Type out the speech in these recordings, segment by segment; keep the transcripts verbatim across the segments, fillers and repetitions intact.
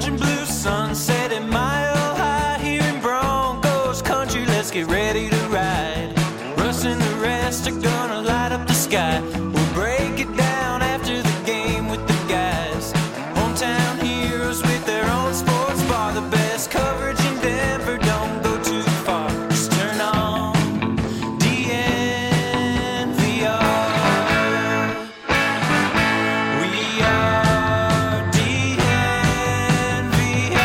orange and blue sunset at Mile High here in Broncos country. Let's get ready to ride. Russ and the rest are gonna light up the sky. We'll break it down after the game with the guys. Hometown heroes with their own sports bar. The best coverage in Denver, don't go too far. Just turn on D N V R. We are D N V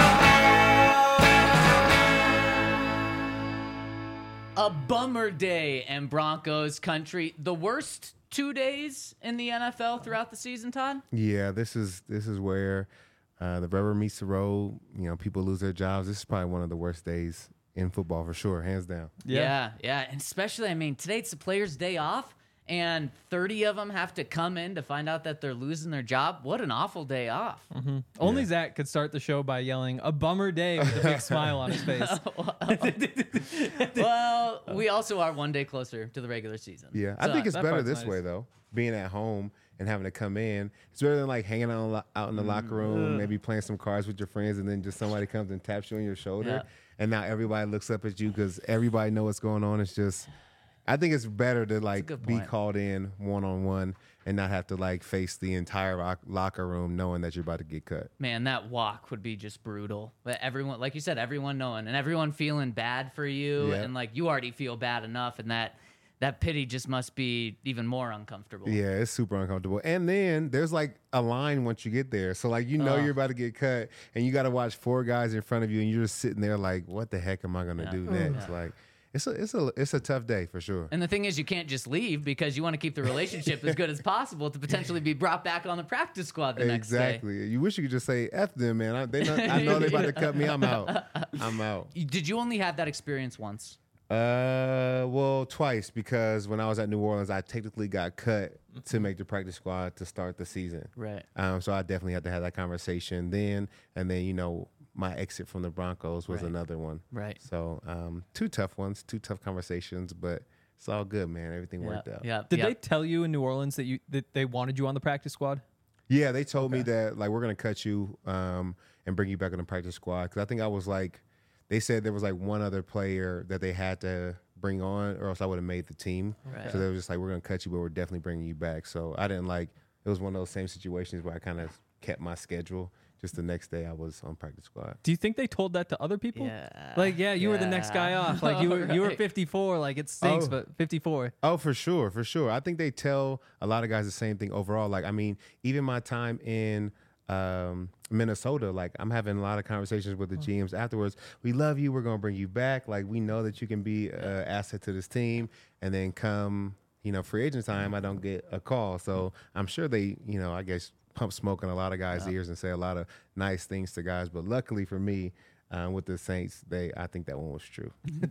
R. A bummer day in Broncos country. The worst two days in the N F L throughout the season, Todd? Yeah, this is this is where uh, the rubber meets the road. You know, people lose their jobs. This is probably one of the worst days in football for sure, hands down. Yeah, yeah. yeah. And especially, I mean, today it's the players' day off, and thirty of them have to come in to find out that they're losing their job. What an awful day off. Mm-hmm. Only yeah. Zach could start the show by yelling, "A bummer day," with a big smile on his face. Well, we also are one day closer to the regular season. Yeah, I So- think it's that better part's this nice. way, though, being at home and having to come in. It's better than like hanging out, out in the locker room, maybe playing some cards with your friends, and then just somebody comes and taps you on your shoulder. Yeah. And now everybody looks up at you because everybody knows what's going on. It's just, I think it's better to like good be point. called in one-on-one and not have to like face the entire lock- locker room knowing that you're about to get cut. Man, that walk would be just brutal. But everyone, like you said, everyone knowing and everyone feeling bad for you, Yeah. and like you already feel bad enough, and that that pity just must be even more uncomfortable. Yeah, it's super uncomfortable. And then there's like a line once you get there. So like you know Oh. you're about to get cut and you got to watch four guys in front of you and you're just sitting there like, what the heck am I going to Yeah. do next? Like it's a it's a it's a tough day for sure. And the thing is, you can't just leave because you want to keep the relationship as good as possible to potentially be brought back on the practice squad the next day. Exactly. You wish you could just say F them, man. I, they know, I know they're about to cut me. I'm out. I'm out. Did you only have that experience once? Uh, well, twice because when I was at New Orleans, I technically got cut to make the practice squad to start the season. Right. Um, so I definitely had to have that conversation then, and then you know my exit from the Broncos was Right. another one. Right. So um, two tough ones, two tough conversations, but it's all good, man. Everything Yeah. worked out. Yeah. Did yeah. they tell you in New Orleans that you that they wanted you on the practice squad? Yeah, they told me that like we're gonna cut you um, and bring you back on the practice squad because I think I was like, they said there was like one other player that they had to bring on, or else I would have made the team. Right. So they were just like, we're gonna cut you, but we're definitely bringing you back. So I didn't like. It was one of those same situations where I kind of kept my schedule. Just the next day, I was on practice squad. Do you think they told that to other people? Yeah. Like, yeah, you were the next guy Yeah. off. Like you were you were Right. fifty-four. Like it stinks, Oh. but fifty-four. Oh, for sure, for sure. I think they tell a lot of guys the same thing overall. Like, I mean, even my time in um, Minnesota, like I'm having a lot of conversations with the G Ms afterwards. We love you. We're going to bring you back. Like, we know that you can be an asset to this team. And then come, you know, free agent time, I don't get a call. So I'm sure they, you know, I guess pump smoke in a lot of guys' ears and say a lot of nice things to guys. But luckily for me, um, with the Saints, they I think that one was true.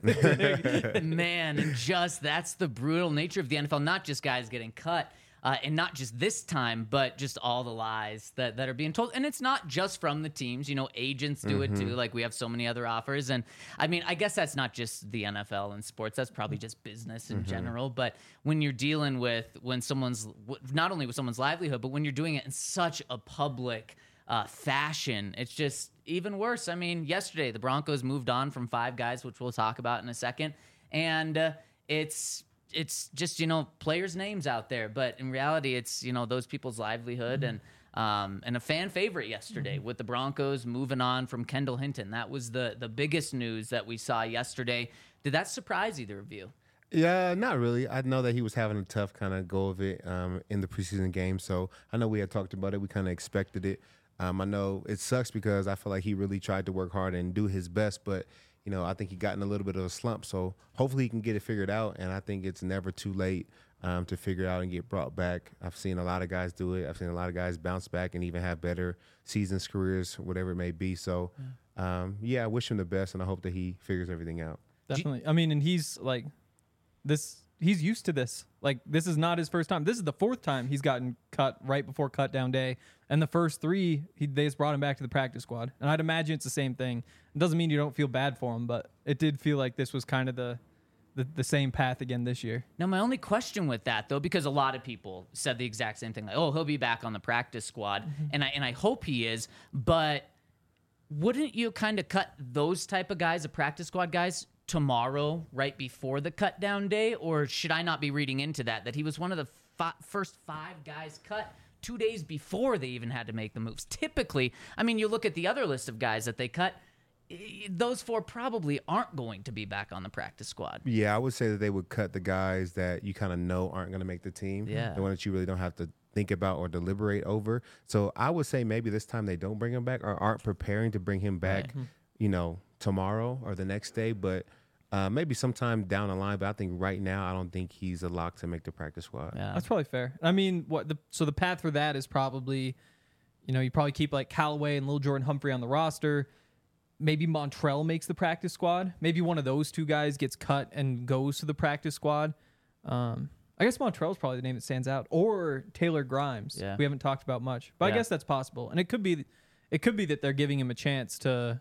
Man, and just that's the brutal nature of the N F L. Not just guys getting cut, uh, and not just this time, but just all the lies that, that are being told. And it's not just from the teams. You know, agents do it too. Like we have so many other offers. And I mean, I guess that's not just the N F L and sports. That's probably just business in general. But when you're dealing with when someone's not only with someone's livelihood, but when you're doing it in such a public uh, fashion, it's just even worse. I mean, yesterday the Broncos moved on from five guys, which we'll talk about in a second, and uh, it's it's just you know players' names out there, but in reality, it's you know those people's livelihood and um, and a fan favorite yesterday with the Broncos moving on from Kendall Hinton. That was the the biggest news that we saw yesterday. Did that surprise either of you? Yeah, not really. I know that he was having a tough kind of go of it um, in the preseason game, so I know we had talked about it. We kind of expected it. Um, I know it sucks because I feel like he really tried to work hard and do his best, but you know I think he got in a little bit of a slump. So hopefully he can get it figured out, and I think it's never too late um, to figure it out and get brought back. I've seen a lot of guys do it. I've seen a lot of guys bounce back and even have better seasons, careers, whatever it may be. So um, yeah, I wish him the best, and I hope that he figures everything out. Definitely. I mean, and he's like this. He's used to this. Like this is not his first time. This is the fourth time he's gotten cut right before cut down day, and the first three he they just brought him back to the practice squad. And I'd imagine it's the same thing. It doesn't mean you don't feel bad for him, but it did feel like this was kind of the the, the same path again this year. Now, my only question with that, though, because a lot of people said the exact same thing, like, oh, he'll be back on the practice squad, and I and I hope he is, but wouldn't you kind of cut those type of guys, the practice squad guys, tomorrow, right before the cut down day? Or should I not be reading into that, that he was one of the fi- first five guys cut two days before they even had to make the moves? Typically, I mean, you look at the other list of guys that they cut, those four probably aren't going to be back on the practice squad. Yeah, I would say that they would cut the guys that you kind of know aren't going to make the team. Yeah. The one that you really don't have to think about or deliberate over. So I would say maybe this time they don't bring him back or aren't preparing to bring him back, Right. you know, tomorrow or the next day. But uh, maybe sometime down the line. But I think right now, I don't think he's a lock to make the practice squad. Yeah. That's probably fair. I mean, what the so the path for that is probably, you know, you probably keep like Callaway and Lil Jordan Humphrey on the roster. Maybe Montrell makes the practice squad. Maybe one of those two guys gets cut and goes to the practice squad. Um, I guess Montrell's probably the name that stands out, or Taylor Grimes. Yeah. We haven't talked about much, but Yeah. I guess that's possible. And it could be, it could be that they're giving him a chance to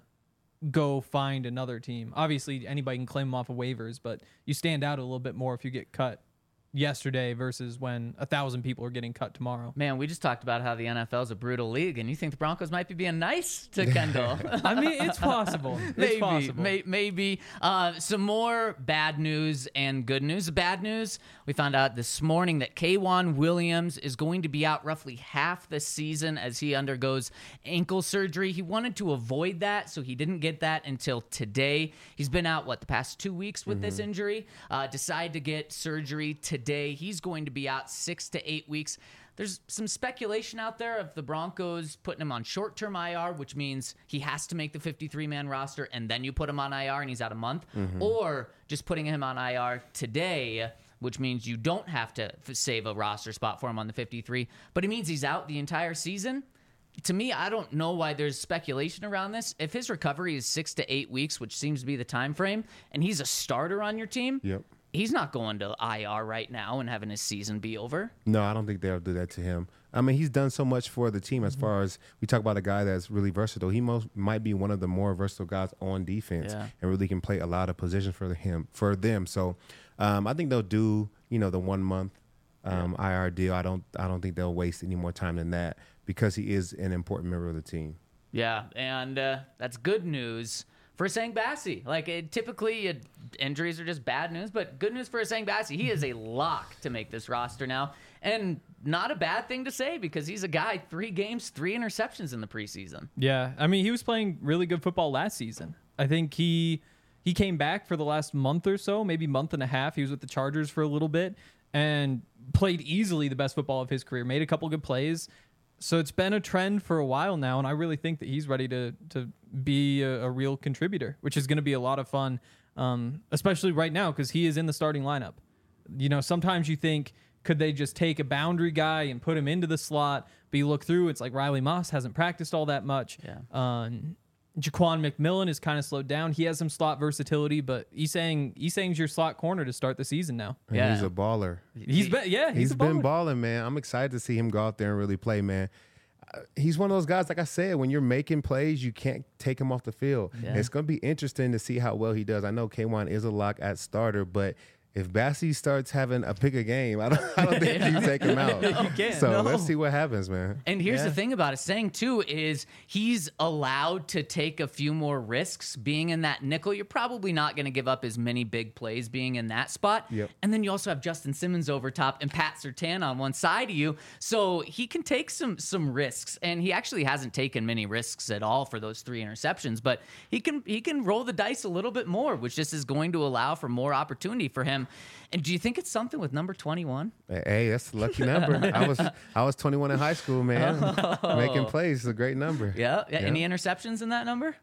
go find another team. Obviously, anybody can claim him off of waivers, but you stand out a little bit more if you get cut yesterday versus when a thousand people are getting cut tomorrow. Man, we just talked about how the N F L is a brutal league, and you think the Broncos might be being nice to Kendall. I mean, it's possible. It's maybe, possible. may, maybe. Uh, some more bad news and good news. Bad news, we found out this morning that K'Wan Williams is going to be out roughly half the season as he undergoes ankle surgery. He wanted to avoid that, so he didn't get that until today. He's been out, what, the past two weeks with this injury? Uh, decided to get surgery today. He's going to be out six to eight weeks. There's some speculation out there of the Broncos putting him on short-term I R, which means he has to make the fifty-three man roster, and then you put him on I R and he's out a month, or just putting him on I R today, which means you don't have to f- save a roster spot for him on the fifty-three, but it means he's out the entire season. To me, I don't know why there's speculation around this. If his recovery is six to eight weeks, which seems to be the time frame, and he's a starter on your team, Yep. he's not going to I R right now and having his season be over. No, I don't think they'll do that to him. I mean, he's done so much for the team as far as we talk about a guy that's really versatile. He most might be one of the more versatile guys on defense Yeah. and really can play a lot of positions for him for them. So um, I think they'll do, you know, the one month um, I R deal. I don't I don't think they'll waste any more time than that because he is an important member of the team. Yeah, and uh, that's good news for Sang Bassi. Like, it, typically, it, injuries are just bad news, but good news for Sang Bassi. He is a lock to make this roster now, and not a bad thing to say because he's a guy, three games, three interceptions in the preseason. Yeah, I mean, he was playing really good football last season. I think he he came back for the last month or so, maybe month and a half. He was with the Chargers for a little bit and played easily the best football of his career, made a couple good plays. So it's been a trend for a while now, and I really think that he's ready to to be a, a real contributor, which is going to be a lot of fun, um, especially right now because he is in the starting lineup. You know, sometimes you think, could they just take a boundary guy and put him into the slot? But you look through, it's like Riley Moss hasn't practiced all that much. Yeah. Um, Jaquan McMillan is kind of slowed down. He has some slot versatility, but Esang Esang's your slot corner to start the season now. And Yeah. he's a baller. He's been yeah, he's, he's a been baller. balling, man. I'm excited to see him go out there and really play, man. Uh, He's one of those guys, like I said, when you're making plays, you can't take him off the field. Yeah. It's going to be interesting to see how well he does. I know K'Wan is a lock at starter, but if Bassi starts having a pick a game, I don't, I don't think you take him out. You can't, So no. let's see what happens, man. And here's Yeah. the thing about it, saying too, is he's allowed to take a few more risks being in that nickel. You're probably not going to give up as many big plays being in that spot. Yep. And then you also have Justin Simmons over top and Pat Surtain on one side of you. So he can take some some risks. And he actually hasn't taken many risks at all for those three interceptions, but he can he can roll the dice a little bit more, which just is going to allow for more opportunity for him. And do you think it's something with number twenty-one? Hey, that's a lucky number. I was I was twenty-one in high school, man. Making plays is a great number. Yeah. yeah. Any interceptions in that number?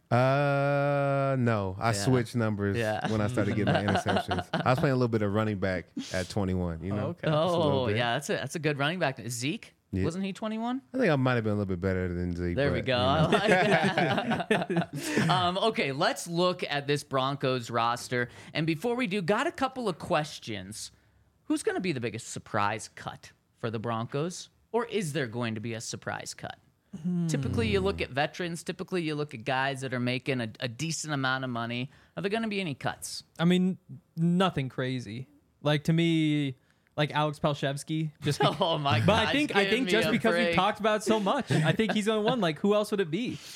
Uh, no. I switched numbers Yeah. when I started getting my interceptions. I was playing a little bit of running back at twenty-one, you know? Okay. Just a little Oh, bit. yeah, that's a that's a good running back. Zeke, Yeah. wasn't he twenty-one? I think I might have been a little bit better than Zeke. There we but, go. you I know. like that. um, okay, let's look at this Broncos roster. And before we do, got a couple of questions. Who's going to be the biggest surprise cut for the Broncos? Or is there going to be a surprise cut? Typically, you look at veterans. Typically, you look at guys that are making a, a decent amount of money. Are there going to be any cuts? I mean, nothing crazy. Like to me, like Alex Palshevsky. Just be- Oh, my God. but I think I think just because we break. talked about it so much, I think he's the only one. Like who else would it be?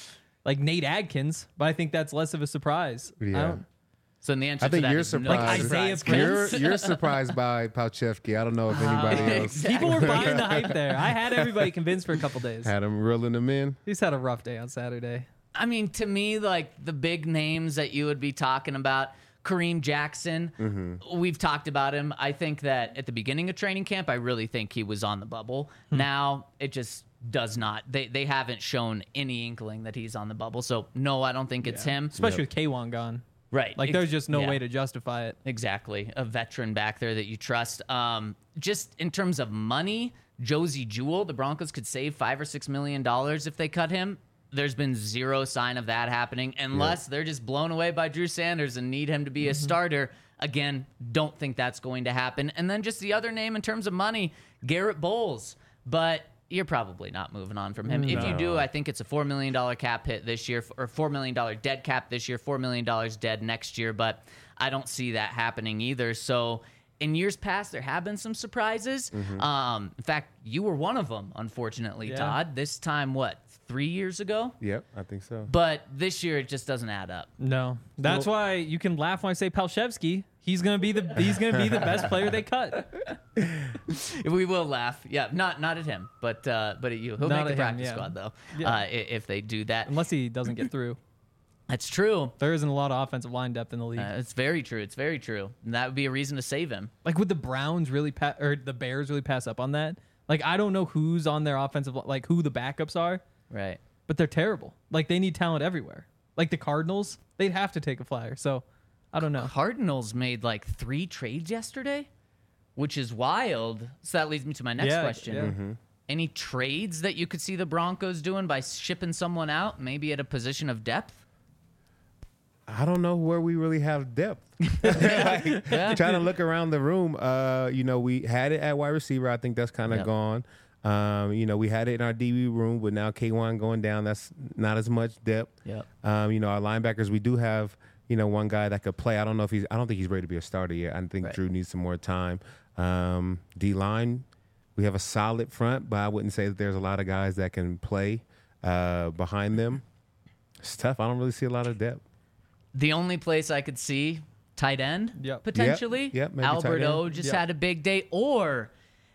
like Nate Adkins, but I think that's less of a surprise. I Yeah. don't- So the answer I think to that you're is no surprised. Isaiah surprise. You're Prince. you're surprised by Palchevsky. I don't know if anybody else People were buying the hype there. I had everybody convinced for a couple days. had him reeling them in. He's had a rough day on Saturday. I mean, to me, like the big names that you would be talking about, Kareem Jackson, Mm-hmm. we've talked about him. I think that at the beginning of training camp, I really think he was on the bubble. Now it just does not. They they haven't shown any inkling that he's on the bubble. So no, I don't think it's him. Especially with K one gone. Right. Like Ex- there's just no yeah. way to justify it. Exactly. A veteran back there that you trust. Um, just in terms of money, Josie Jewell, the Broncos could save five or six million dollars if they cut him. There's been zero sign of that happening unless they're just blown away by Drew Sanders and need him to be a starter. Again, don't think that's going to happen. And then just the other name in terms of money, Garrett Bowles. But you're probably not moving on from him. If you do, I think it's a four million dollars cap hit this year, or four million dollars dead cap this year, four million dollars dead next year. But I don't see that happening either. So in years past, there have been some surprises. Um, in fact, you were one of them, unfortunately, Yeah. Todd. This time, what, three years ago? Yep, I think so. But this year, it just doesn't add up. No. That's why you can laugh when I say Palchevsky. He's gonna be the he's gonna be the best player they cut. We will laugh. Yeah, not not at him, but uh, but at you. He'll Not make the at him, practice yeah. squad, though, Yeah. uh, i- if they do that. Unless he doesn't get through. That's true. There isn't a lot of offensive line depth in the league. Uh, it's very true. It's very true. And that would be a reason to save him. Like would the Browns really pa- or the Bears really pass up on that? Like I don't know who's on their offensive li- like who the backups are, Right. but they're terrible. Like they need talent everywhere. Like the Cardinals, they'd have to take a flyer. So I don't know. Cardinals made like three trades yesterday, which is wild. So that leads me to my next Yeah, question. yeah. Any trades that you could see the Broncos doing by shipping someone out, maybe at a position of depth? I don't know where we really have depth. Like, trying to look around the room, uh, you know, we had it at wide receiver. I think that's kind of Yep. gone. Um, you know, we had it in our D B room, but now K one going down. That's not as much depth. Yep. Um, you know, our linebackers, we do have, you know, one guy that could play. I don't know if he's, I don't think he's ready to be a starter yet. I think Right. Drew needs some more time. Um, D line, we have a solid front, but I wouldn't say that there's a lot of guys that can play uh, behind them. It's tough. I don't really see a lot of depth. The only place I could see tight end Yep. potentially. Yep, yep, maybe tight Alberto end. just Yep. had a big day. Or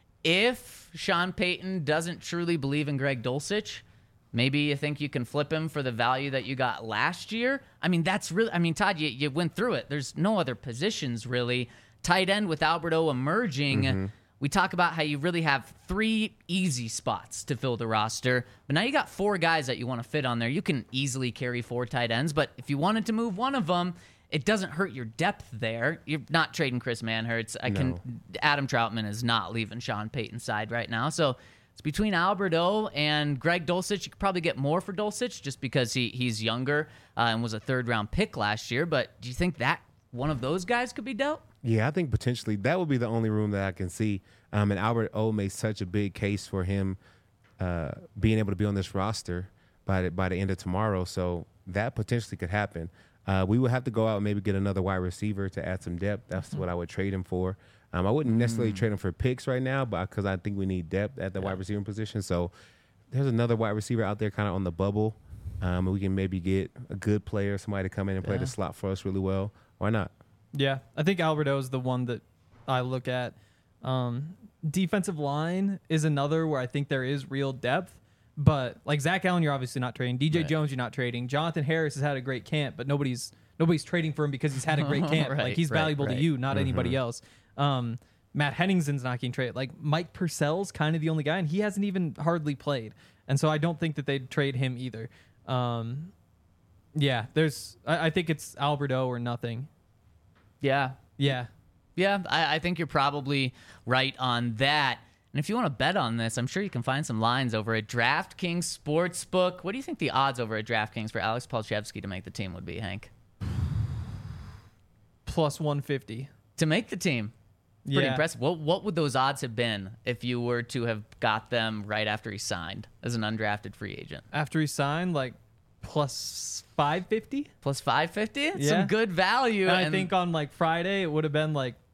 if Sean Payton doesn't truly believe in Greg Dulcich, maybe you think you can flip him for the value that you got last year. I mean, that's really, I mean, Todd, you, you went through it. There's no other positions really. Tight end with Alberto emerging. Mm-hmm. We talk about how you really have three easy spots to fill the roster, but now you got four guys that you want to fit on there. You can easily carry four tight ends, but if you wanted to move one of them, it doesn't hurt your depth there. You're not trading Chris Manhertz. I can. No. Adam Troutman is not leaving Sean Payton's side right now, so it's between Alberto and Greg Dulcich. You could probably get more for Dulcich just because he he's younger uh, and was a third round pick last year. But do you think that one of those guys could be dealt? Yeah, I think potentially that would be the only room that I can see. Um, and Albert O made such a big case for him uh, being able to be on this roster by the, by the end of tomorrow. So that potentially could happen. Uh, we would have to go out and maybe get another wide receiver to add some depth. That's what I would trade him for. Um, I wouldn't necessarily trade him for picks right now, but because I think we need depth at the wide receiver position. So there's another wide receiver out there kind of on the bubble. Um, and we can maybe get a good player, somebody to come in and play Yeah. the slot for us really well. Why not? Yeah, I think Alberto is the one that I look at. Um, defensive line is another where I think there is real depth, but like Zach Allen, you're obviously not trading. D J Right. Jones, you're not trading. Jonathan Harris has had a great camp, but nobody's nobody's trading for him because he's had a great camp. Right, like he's right, valuable right. to you, not anybody else. Um, Matt Henningsen's not getting traded. Like Mike Purcell's kind of the only guy, and he hasn't even hardly played, and so I don't think that they'd trade him either. Um, yeah, there's. I, I think it's Alberto or nothing. Yeah, Yeah. Yeah, I, I think you're probably right on that. And if you want to bet on this, I'm sure you can find some lines over at DraftKings Sportsbook. What do you think the odds over at DraftKings for Alex Palchevsky to make the team would be, Hank? Plus one fifty. To make the team? Pretty Yeah. impressive. What, what would those odds have been if you were to have got them right after he signed as an undrafted free agent? After he signed, like plus five fifty. Plus five fifty? Yeah. Some good value. And I and- think on like Friday it would have been like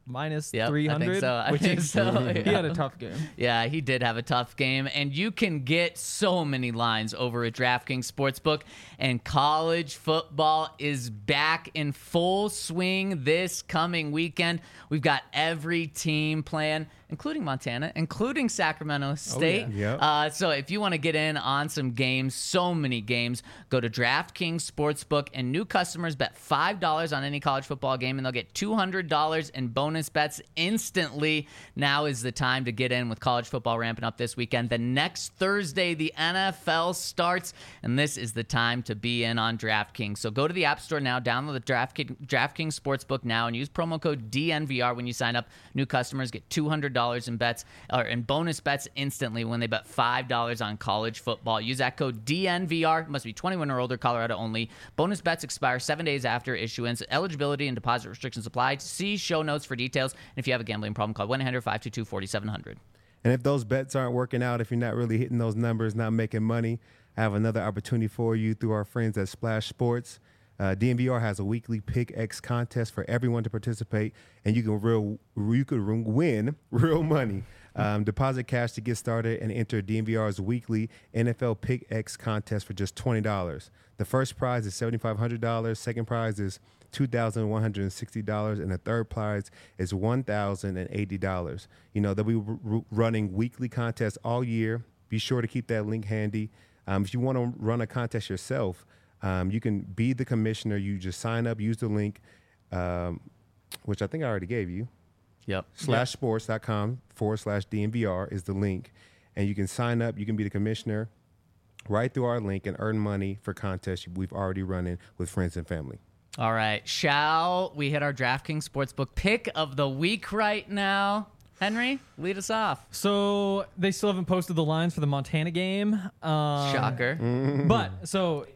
minus Yep, three I think hundred. so. I which think is, so, He yeah. had a tough game. Yeah, he did have a tough game, and you can get so many lines over at DraftKings Sportsbook, and college football is back in full swing this coming weekend. We've got every team playing, including Montana, including Sacramento State. yeah. Yep. Uh, so if you want to get in on some games, so many games, go to DraftKings Sportsbook, and new customers bet five dollars on any college football game, and they'll get two hundred dollars in bonus bets instantly. Now is the time to get in with college football ramping up this weekend. The next Thursday, the N F L starts, and this is the time to be in on DraftKings. So go to the App Store now, download the DraftKings, DraftKings Sportsbook now, and use promo code D N V R when you sign up. New customers get two hundred dollars in bets or in bonus bets instantly when they bet five dollars on college football. Use that code D N V R. Must be twenty-one or older, Colorado only. Bonus bets expire seven days after issuance. Eligibility and deposit restrictions apply. See show notes for details. And if you have a gambling problem, call one eight hundred five two two four seven zero zero. And if those bets aren't working out, if you're not really hitting those numbers, not making money, I have another opportunity for you through our friends at Splash Sports. Uh, D N V R has a weekly Pick X contest for everyone to participate, and you can real you could win real money. Um, deposit cash to get started and enter D N V R's weekly N F L Pick X contest for just twenty dollars. The first prize is seven thousand five hundred dollars. Second prize is two thousand one hundred sixty dollars, and the third prize is one thousand eighty dollars. You know, they'll be r- r- running weekly contests all year. Be sure to keep that link handy. Um, if you want to run a contest yourself, um, you can be the commissioner. You just sign up, use the link, um, which I think I already gave you. Yep. Slash sports.com forward slash DNVR is the link. And you can sign up. You can be the commissioner right through our link and earn money for contests we've already running with friends and family. All right. Shall we hit our DraftKings Sportsbook pick of the week right now? Henry, lead us off. So they still haven't posted the lines for the Montana game. Um, Shocker. But so,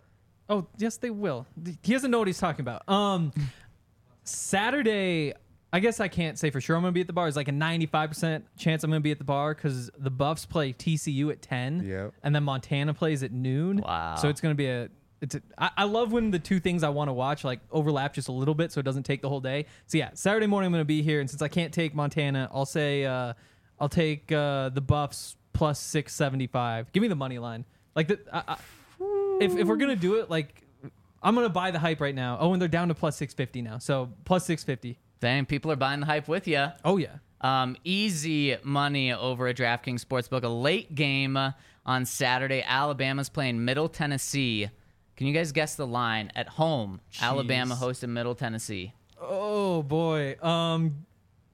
oh yes, they will. He doesn't know what he's talking about. Um, Saturday, I guess I can't say for sure I'm going to be at the bar. It's like a ninety-five percent chance I'm going to be at the bar because the Buffs play T C U at ten, Yep. and then Montana plays at noon. Wow. So it's going to be a. It's a, I, I love when the two things I want to watch like overlap just a little bit, so it doesn't take the whole day. So yeah, Saturday morning I'm going to be here, and since I can't take Montana, I'll say uh, I'll take uh, the Buffs plus six seventy-five. Give me the money line. Like the, I, I, if if we're gonna do it, like I'm gonna buy the hype right now. Oh, and they're down to plus six fifty now, so plus six fifty. Dang, people are buying the hype with you. Oh yeah. Um, easy money over at DraftKings Sportsbook. A late game uh, on Saturday. Alabama's playing Middle Tennessee. Can you guys guess the line at home? Jeez. Alabama hosting Middle Tennessee. Oh boy. Um,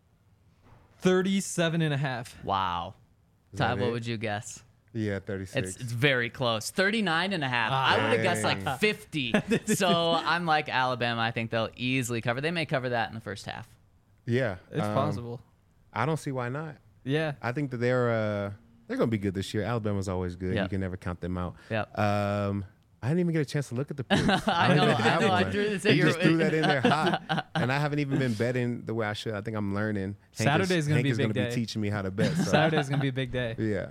thirty-seven and a half. Wow. that Ty, what it? would you guess? Yeah, thirty-six. It's, it's very close. thirty-nine and a half. Ah. I would have guessed Dang. like fifty. So I'm like Alabama. I think they'll easily cover. They may cover that in the first half. yeah. It's um, possible. I don't see why not. Yeah. I think that they're uh, they're going to be good this year. Alabama's always good. Yep. You can never count them out. Yep. Um, I didn't even get a chance to look at the picks. I don't know, even I have know, I one. threw this You at your- just threw that in there hot, and I haven't even been betting the way I should. I think I'm learning. Hank is- Saturday's gonna Hank be a is big gonna day. be teaching me how to bet. So. Saturday's gonna be a big day. Yeah.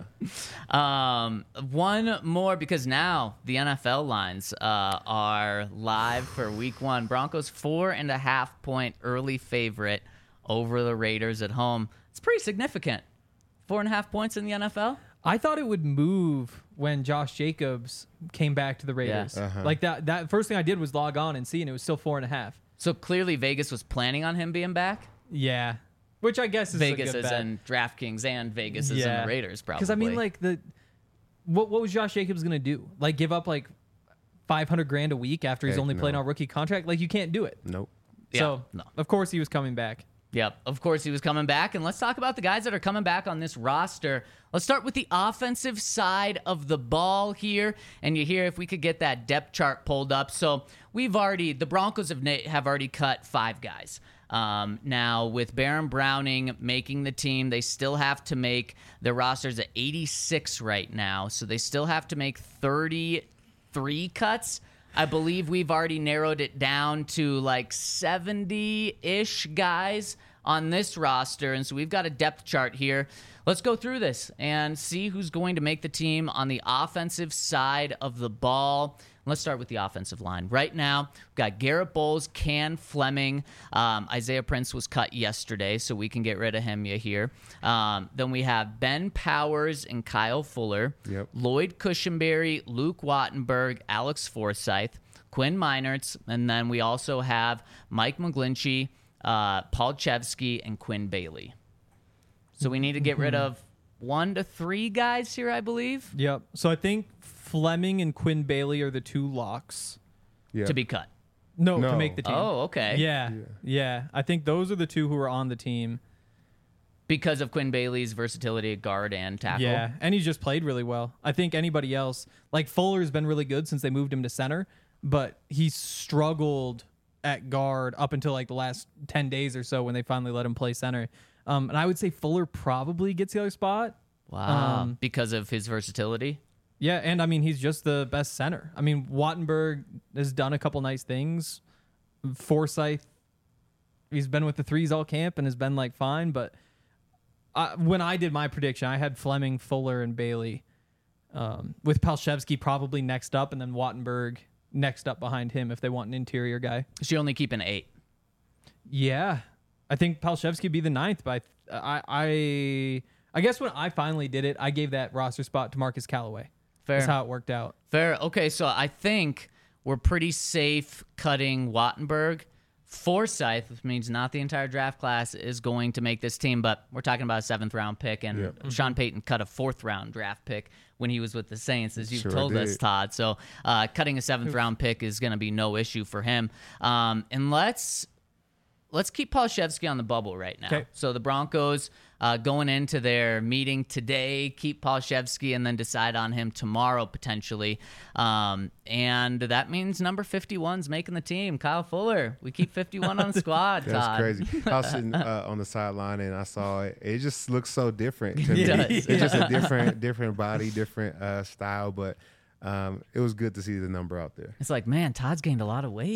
Um, one more because now the N F L lines uh, are live for Week One. Broncos four and a half point early favorite over the Raiders at home. It's pretty significant. Four and a half points in the N F L. I thought it would move when Josh Jacobs came back to the Raiders. Yeah. Uh-huh. Like that. That first thing I did was log on and see, and it was still four and a half. So clearly Vegas was planning on him being back. Yeah. Which I guess is Vegas a good is bet. in DraftKings and Vegas is in Yeah. the Raiders probably. Because I mean, like the what what was Josh Jacobs gonna do? Like give up like five hundred grand a week after he's Heck only playing no. on rookie contract? Like you can't do it. Nope. Yeah, so no. of course he was coming back. Yep, of course he was coming back. And let's talk about the guys that are coming back on this roster. Let's start with the offensive side of the ball here. And you hear if we could get that depth chart pulled up. So we've already, the Broncos have, na- have already cut five guys. Um, now, with Baron Browning making the team, they still have to make their rosters at eighty-six right now. So they still have to make thirty-three cuts. I believe we've already narrowed it down to like seventy-ish guys on this roster. And so we've got a depth chart here. Let's go through this and see who's going to make the team on the offensive side of the ball. Let's start with the offensive line. Right now, we've got Garrett Bowles, Can Fleming. Um, Isaiah Prince was cut yesterday, so we can get rid of him here. Um, then we have Ben Powers and Kyle Fuller. Yep. Lloyd Cushenberry, Luke Wattenberg, Alex Forsyth, Quinn Meinertz, and then we also have Mike McGlinchey, uh, Paul Chevsky, and Quinn Bailey. So we need to get rid of one to three guys here, I believe, Yep. So I think Fleming and Quinn Bailey are the two locks. Yeah. to be cut. No, to No. make the team. Oh, okay. Yeah, yeah. I think those are the two who are on the team. Because of Quinn Bailey's versatility at guard and tackle. Yeah, and he's just played really well. I think anybody else, like Fuller's been really good since they moved him to center, but he struggled at guard up until like the last ten days or so when they finally let him play center. Um, and I would say Fuller probably gets the other spot. Wow. Um, because of his versatility. Yeah, and I mean, he's just the best center. I mean, Wattenberg has done a couple nice things. Forsyth, he's been with the threes all camp and has been like fine, but I, when I did my prediction, I had Fleming, Fuller, and Bailey, um, with Palshevsky probably next up, and then Wattenberg next up behind him if they want an interior guy. She only keep an eight. Yeah, I think Palshevsky would be the ninth, but I, I, I guess when I finally did it, I gave that roster spot to Marcus Callaway. Fair. That's how it worked out. Fair. Okay, so I think we're pretty safe cutting Wattenberg. Forsyth, which means not the entire draft class, is going to make this team, but we're talking about a seventh round pick, and Yep. Sean Payton cut a fourth round draft pick when he was with the Saints, as you've Sure told us, did. Todd. So uh, cutting a seventh round pick is going to be no issue for him. Um, and let's let's keep Palshevsky on the bubble right now. 'Kay. So the Broncos uh, going into their meeting today, keep Palshevsky and then decide on him tomorrow potentially. Um, and that means number fifty-one's making the team. Kyle Fuller. We keep fifty-one on the squad, That's Todd. crazy. I was sitting uh, on the sideline and I saw it. It just looks so different to me. It does. It's just a different, different body, different uh, style. But um, it was good to see the number out there. It's like, man, Todd's gained a lot of weight.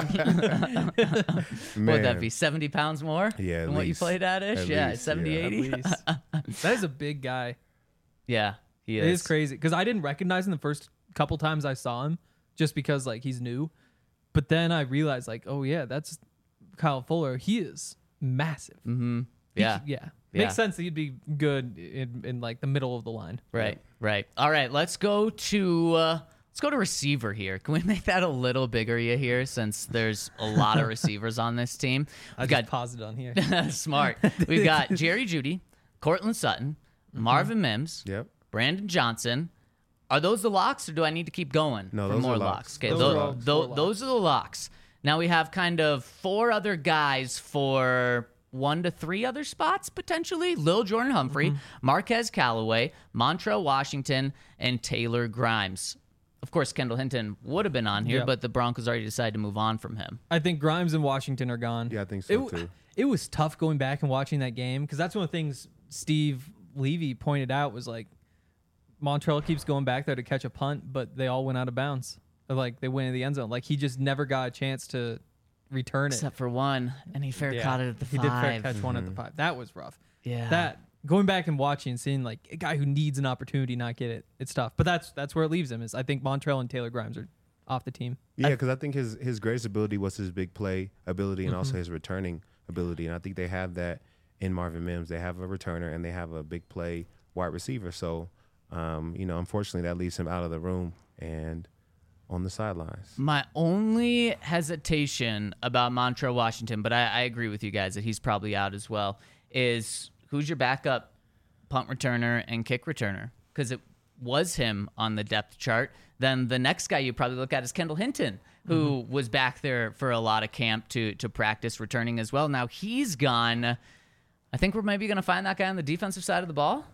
Man, Would that be seventy pounds more Yeah, at than what you least. played at ish? At Yeah, least, seventy, yeah. At eighty. least. That is a big guy. Yeah, he It is. is crazy because I didn't recognize him the first couple times I saw him, just because like he's new. But then I realized like, oh yeah, that's Kyle Fuller. He is massive. Mm-hmm. He- Yeah. yeah. Yeah. Makes sense that he'd be good in, in like the middle of the line. Right, right. All right, let's go to uh, let's go to receiver here. Can we make that a little bigger you here, since there's a lot of receivers on this team? I We've just got paused it on here. smart. We've got Jerry Jeudy, Cortland Sutton, Marvin Mims, Yep. Brandon Johnson. Are those the locks, or do I need to keep going No, for those more are locks? locks. Okay, Those tho- are all tho- four those are the locks. Now we have kind of four other guys for one to three other spots potentially. Lil Jordan Humphrey, Marquez Callaway, Montrell Washington, and Taylor Grimes. Of course, Kendall Hinton would have been on here, Yeah. but the Broncos already decided to move on from him. I think Grimes and Washington are gone. Yeah, I think it, so w- too. It was tough going back and watching that game because that's one of the things Steve Levy pointed out was like Montrell keeps going back there to catch a punt, but they all went out of bounds. Or, like they went in the end zone. Like he just never got a chance to return it. Except for one, and he fair Yeah. caught it at the he did fair five. catch one at the five. That was rough. Yeah. That going back and watching and seeing like a guy who needs an opportunity not get it, it's tough. But that's that's where it leaves him. Is I think Montrell and Taylor Grimes are off the team. Yeah, because I think his his greatest ability was his big play ability and Mm-hmm. also his returning ability. And I think they have that in Marvin Mims. They have a returner and they have a big play wide receiver. So, um, you know, unfortunately, that leaves him out of the room and on the sidelines. My only hesitation about Montrell Washington, but I, I agree with you guys that he's probably out as well, is who's your backup punt returner and kick returner? Because it was him on the depth chart. Then the next guy you probably look at is Kendall Hinton, who was back there for a lot of camp to to practice returning as well. Now he's gone. I think we're maybe going to find that guy on the defensive side of the ball.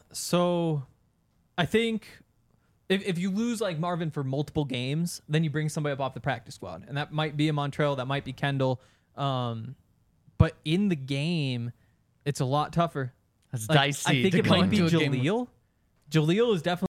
So I think if, if you lose like Marvin for multiple games, then you bring somebody up off the practice squad. And that might be a Montrell, that might be Kendall. Um, but in the game, it's a lot tougher. That's Like, dicey. I think to it go might be into a game with- Jaleel. Jaleel is definitely.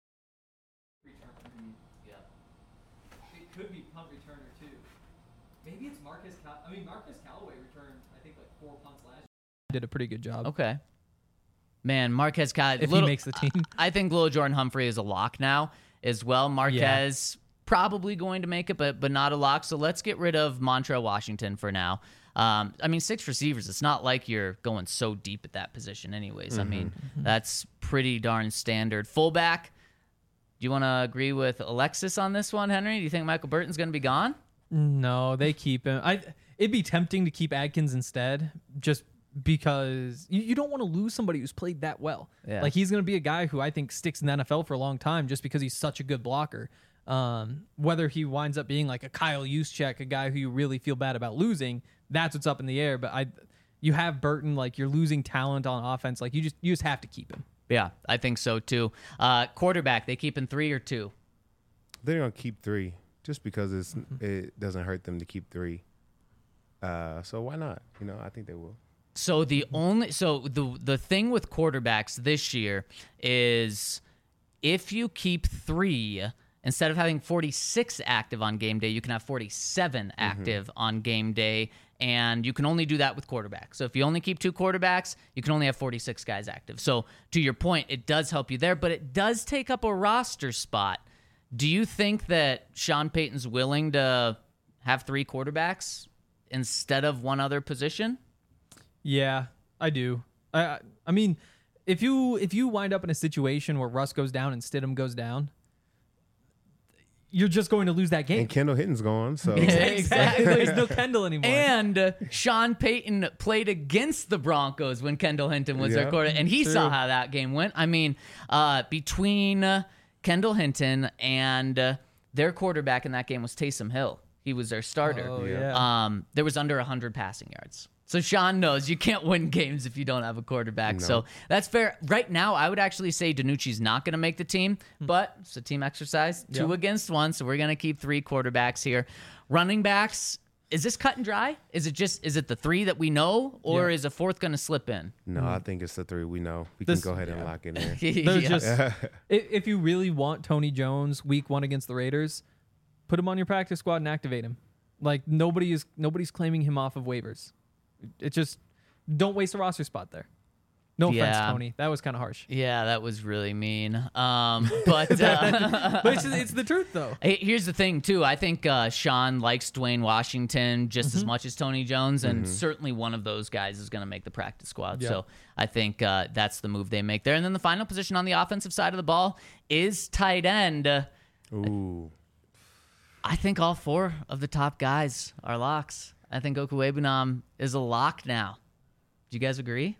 It could be punt returner too. Maybe it's Marcus. Cal- I mean, Marcus Callaway returned, I think, like four punts last year. did a pretty good job. Okay. Man, Marquez Cal- If little, he makes the team. I I think little Jordan Humphrey is a lock now as well. Marquez probably going to make it, but but not a lock. So let's get rid of Montrell Washington for now. Um, I mean, six receivers. It's not like you're going so deep at that position anyways. Mm-hmm. I mean, that's pretty darn standard. Fullback, do you want to agree with Alexis on this one, Henry? Do you think Michael Burton's going to be gone? No, they keep him. I. It'd be tempting to keep Adkins instead, just because you, you don't want to lose somebody who's played that well. Yeah. Like, he's going to be a guy who I think sticks in the N F L for a long time just because he's such a good blocker. Um, whether he winds up being like a Kyle Juszczyk, a guy who you really feel bad about losing, that's what's up in the air. But I, you have Burton, like, you're losing talent on offense. Like, you just you just have to keep him. Yeah, I think so too. Uh, quarterback, they keep in three or two? They're gonna keep three just because it's it doesn't hurt them to keep three. Uh, so why not? You know, I think they will. So the only so the the thing with quarterbacks this year is if you keep three, instead of having forty-six active on game day, you can have forty-seven active mm-hmm. on game day, and you can only do that with quarterbacks. So if you only keep two quarterbacks, you can only have forty-six guys active. So to your point, it does help you there, but it does take up a roster spot. Do you think that Sean Payton's willing to have three quarterbacks instead of one other position? Yeah, I do. I I mean, if you if you wind up in a situation where Russ goes down and Stidham goes down, you're just going to lose that game. And Kendall Hinton's gone, so exactly. There's no Kendall anymore. And uh, Sean Payton played against the Broncos when Kendall Hinton was Yeah, their quarterback, and he true. saw how that game went. I mean, uh, between uh, Kendall Hinton and uh, their quarterback in that game was Taysom Hill. He was their starter. Oh, yeah. Um, there was under one hundred passing yards. So Sean knows you can't win games if you don't have a quarterback. No. So that's fair. Right now, I would actually say DiNucci's not going to make the team, but it's a team exercise. Two Yeah. against one, so we're going to keep three quarterbacks here. Running backs, is this cut and dry? Is it just is it the three that we know, or Yeah. is a fourth going to slip in? no, I think it's the three we know. We This- can go ahead and yeah. lock it in. There's Yeah. just i- if you really want Tony Jones week one against the Raiders, put him on your practice squad and activate him. Like nobody is nobody's claiming him off of waivers. It just don't waste a roster spot there. No offense, Yeah. Tony. That was kind of harsh. Yeah, that was really mean. Um, but uh, But it's, it's the truth though. Hey, here's the thing, too. I think uh, Sean likes Dwayne Washington just Mm-hmm. as much as Tony Jones, and certainly one of those guys is going to make the practice squad. Yeah. So I think uh, that's the move they make there. And then the final position on the offensive side of the ball is tight end. Uh, Ooh, I think all four of the top guys are locks. I think Okuwebunam is a lock now. Do you guys agree?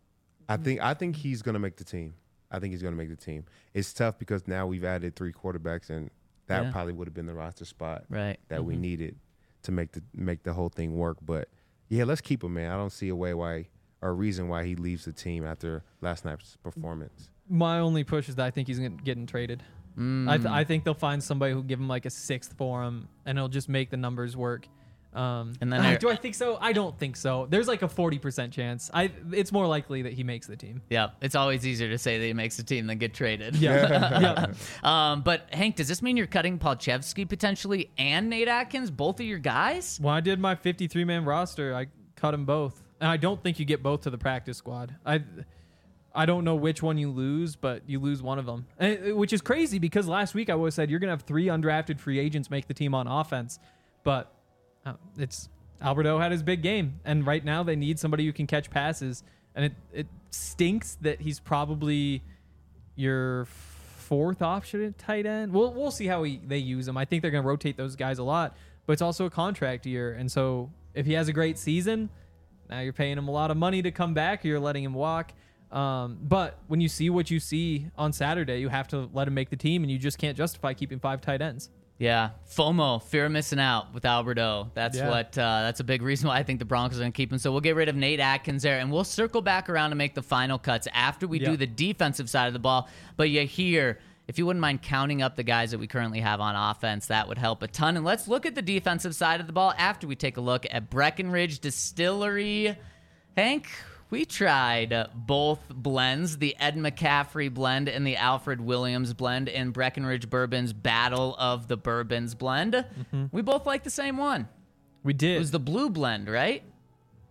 I think I think he's gonna make the team. I think he's gonna make the team. It's tough because now we've added three quarterbacks, and that Yeah. probably would have been the roster spot Right. that we needed to make the make the whole thing work. But yeah, let's keep him, man. I don't see a way why or a reason why he leaves the team after last night's performance. My only push is that I think he's gonna- getting traded. I, th- I think they'll find somebody who'll give him like a sixth for him, and he'll just make the numbers work. Um, And then ah, I- do I think so? I don't think so. There's like a forty percent chance. I it's more likely that he makes the team. Yeah, it's always easier to say that he makes the team than get traded. Yeah, yeah. Um, but Hank, does this mean you're cutting Palchevsky potentially and Nate Atkins, both of your guys? When I did my fifty-three man roster, I cut them both, and I don't think you get both to the practice squad. I I don't know which one you lose, but you lose one of them, and, which is crazy because last week I would have said you're gonna have three undrafted free agents make the team on offense, but uh, it's Alberto had his big game, and right now they need somebody who can catch passes, and it it stinks that he's probably your fourth option at tight end. We'll we'll see how he, they use him. I think they're gonna rotate those guys a lot, but it's also a contract year, and so if he has a great season, now you're paying him a lot of money to come back, or you're letting him walk. Um, but when you see what you see on Saturday, you have to let him make the team, and you just can't justify keeping five tight ends. Yeah, FOMO, fear of missing out with Alberto. That's Yeah. what. Uh, that's a big reason why I think the Broncos are going to keep him. So we'll get rid of Nate Atkins there, and we'll circle back around to make the final cuts after we do Yeah. the defensive side of the ball. But you hear, if you wouldn't mind counting up the guys that we currently have on offense, that would help a ton. And let's look at the defensive side of the ball after we take a look at Breckenridge Distillery. Hank, we tried uh, both blends, the Ed McCaffrey blend and the Alfred Williams blend in Breckenridge Bourbon's Battle of the Bourbons blend. We both like the same one. We It did. was the blue blend, right?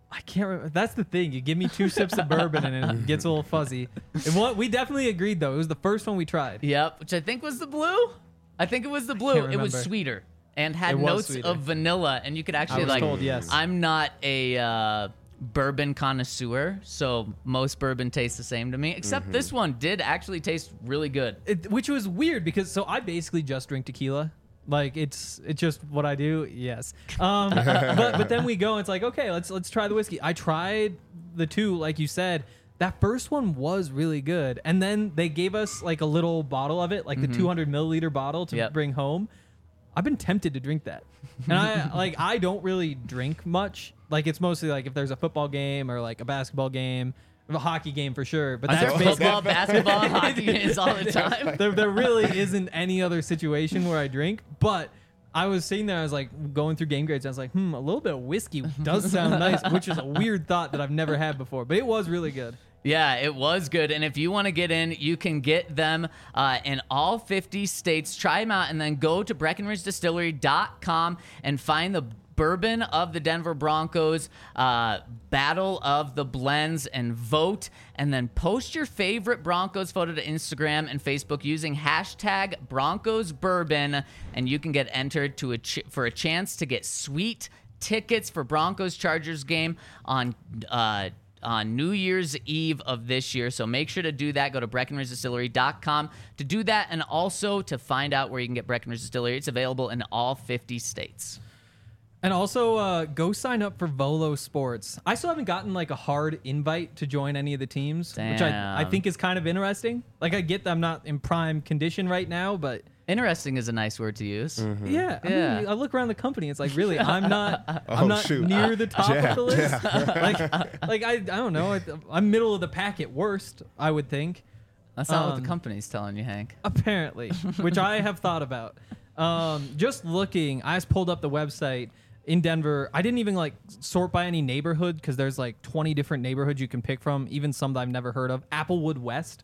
I can't remember. That's the thing. You give me two sips of bourbon and it gets a little fuzzy. And what we definitely agreed though. It was the first one we tried. Yep, which I think was the blue. I think it was the blue. can't It was remember. sweeter and had It was notes sweeter. of vanilla, and you could actually was like. told yes. I'm not a uh, bourbon connoisseur, so most bourbon tastes the same to me. Except Mm-hmm. this one did actually taste really good. It, which was weird because so I basically just drink tequila. Like it's it's just what I do. Yes. Um, but but then we go. And it's like okay, let's let's try the whiskey. I tried the two, like you said. That first one was really good, and then they gave us like a little bottle of it, like the two hundred milliliter bottle to Yep. bring home. I've been tempted to drink that, and I like I don't really drink much. Like it's mostly like if there's a football game or like a basketball game, a hockey game for sure. But Are that's there basically football, basketball, and hockey games all the time? there, there really isn't any other situation where I drink. But I was sitting there, I was like going through game grades. And I was like, hmm, a little bit of whiskey does sound nice, which is a weird thought that I've never had before. But it was really good. Yeah, it was good. And if you want to get in, you can get them uh, in all fifty states. Try them out and then go to Breckenridge Distillery dot com and find the bourbon of the Denver Broncos, uh, Battle of the Blends, and vote. And then post your favorite Broncos photo to Instagram and Facebook using hashtag Broncos Bourbon, and you can get entered to a ch- for a chance to get sweet tickets for Broncos Chargers game on uh, on New Year's Eve of this year. So make sure to do that. Go to Breckenridge Distillery dot com to do that, and also to find out where you can get Breckenridge Distillery. It's available in all fifty states. And also, uh, go sign up for Volo Sports. I still haven't gotten like a hard invite to join any of the teams, which I, I Damn. think is kind of interesting. Like I get that I'm not in prime condition right now, but Interesting is a nice word to use. yeah, I, Yeah. mean, I look around the company. It's like really, I'm not, I'm Oh, not shoot. near the top Yeah, of the list. like, like I, I don't know. I, I'm middle of the pack at worst, I would think. That's not what Um, the company's telling you, Hank. Apparently, which I have thought about. Um, just looking, I just pulled up the website in Denver. I didn't even like sort by any neighborhood because there's like twenty different neighborhoods you can pick from, even some that I've never heard of. Applewood West.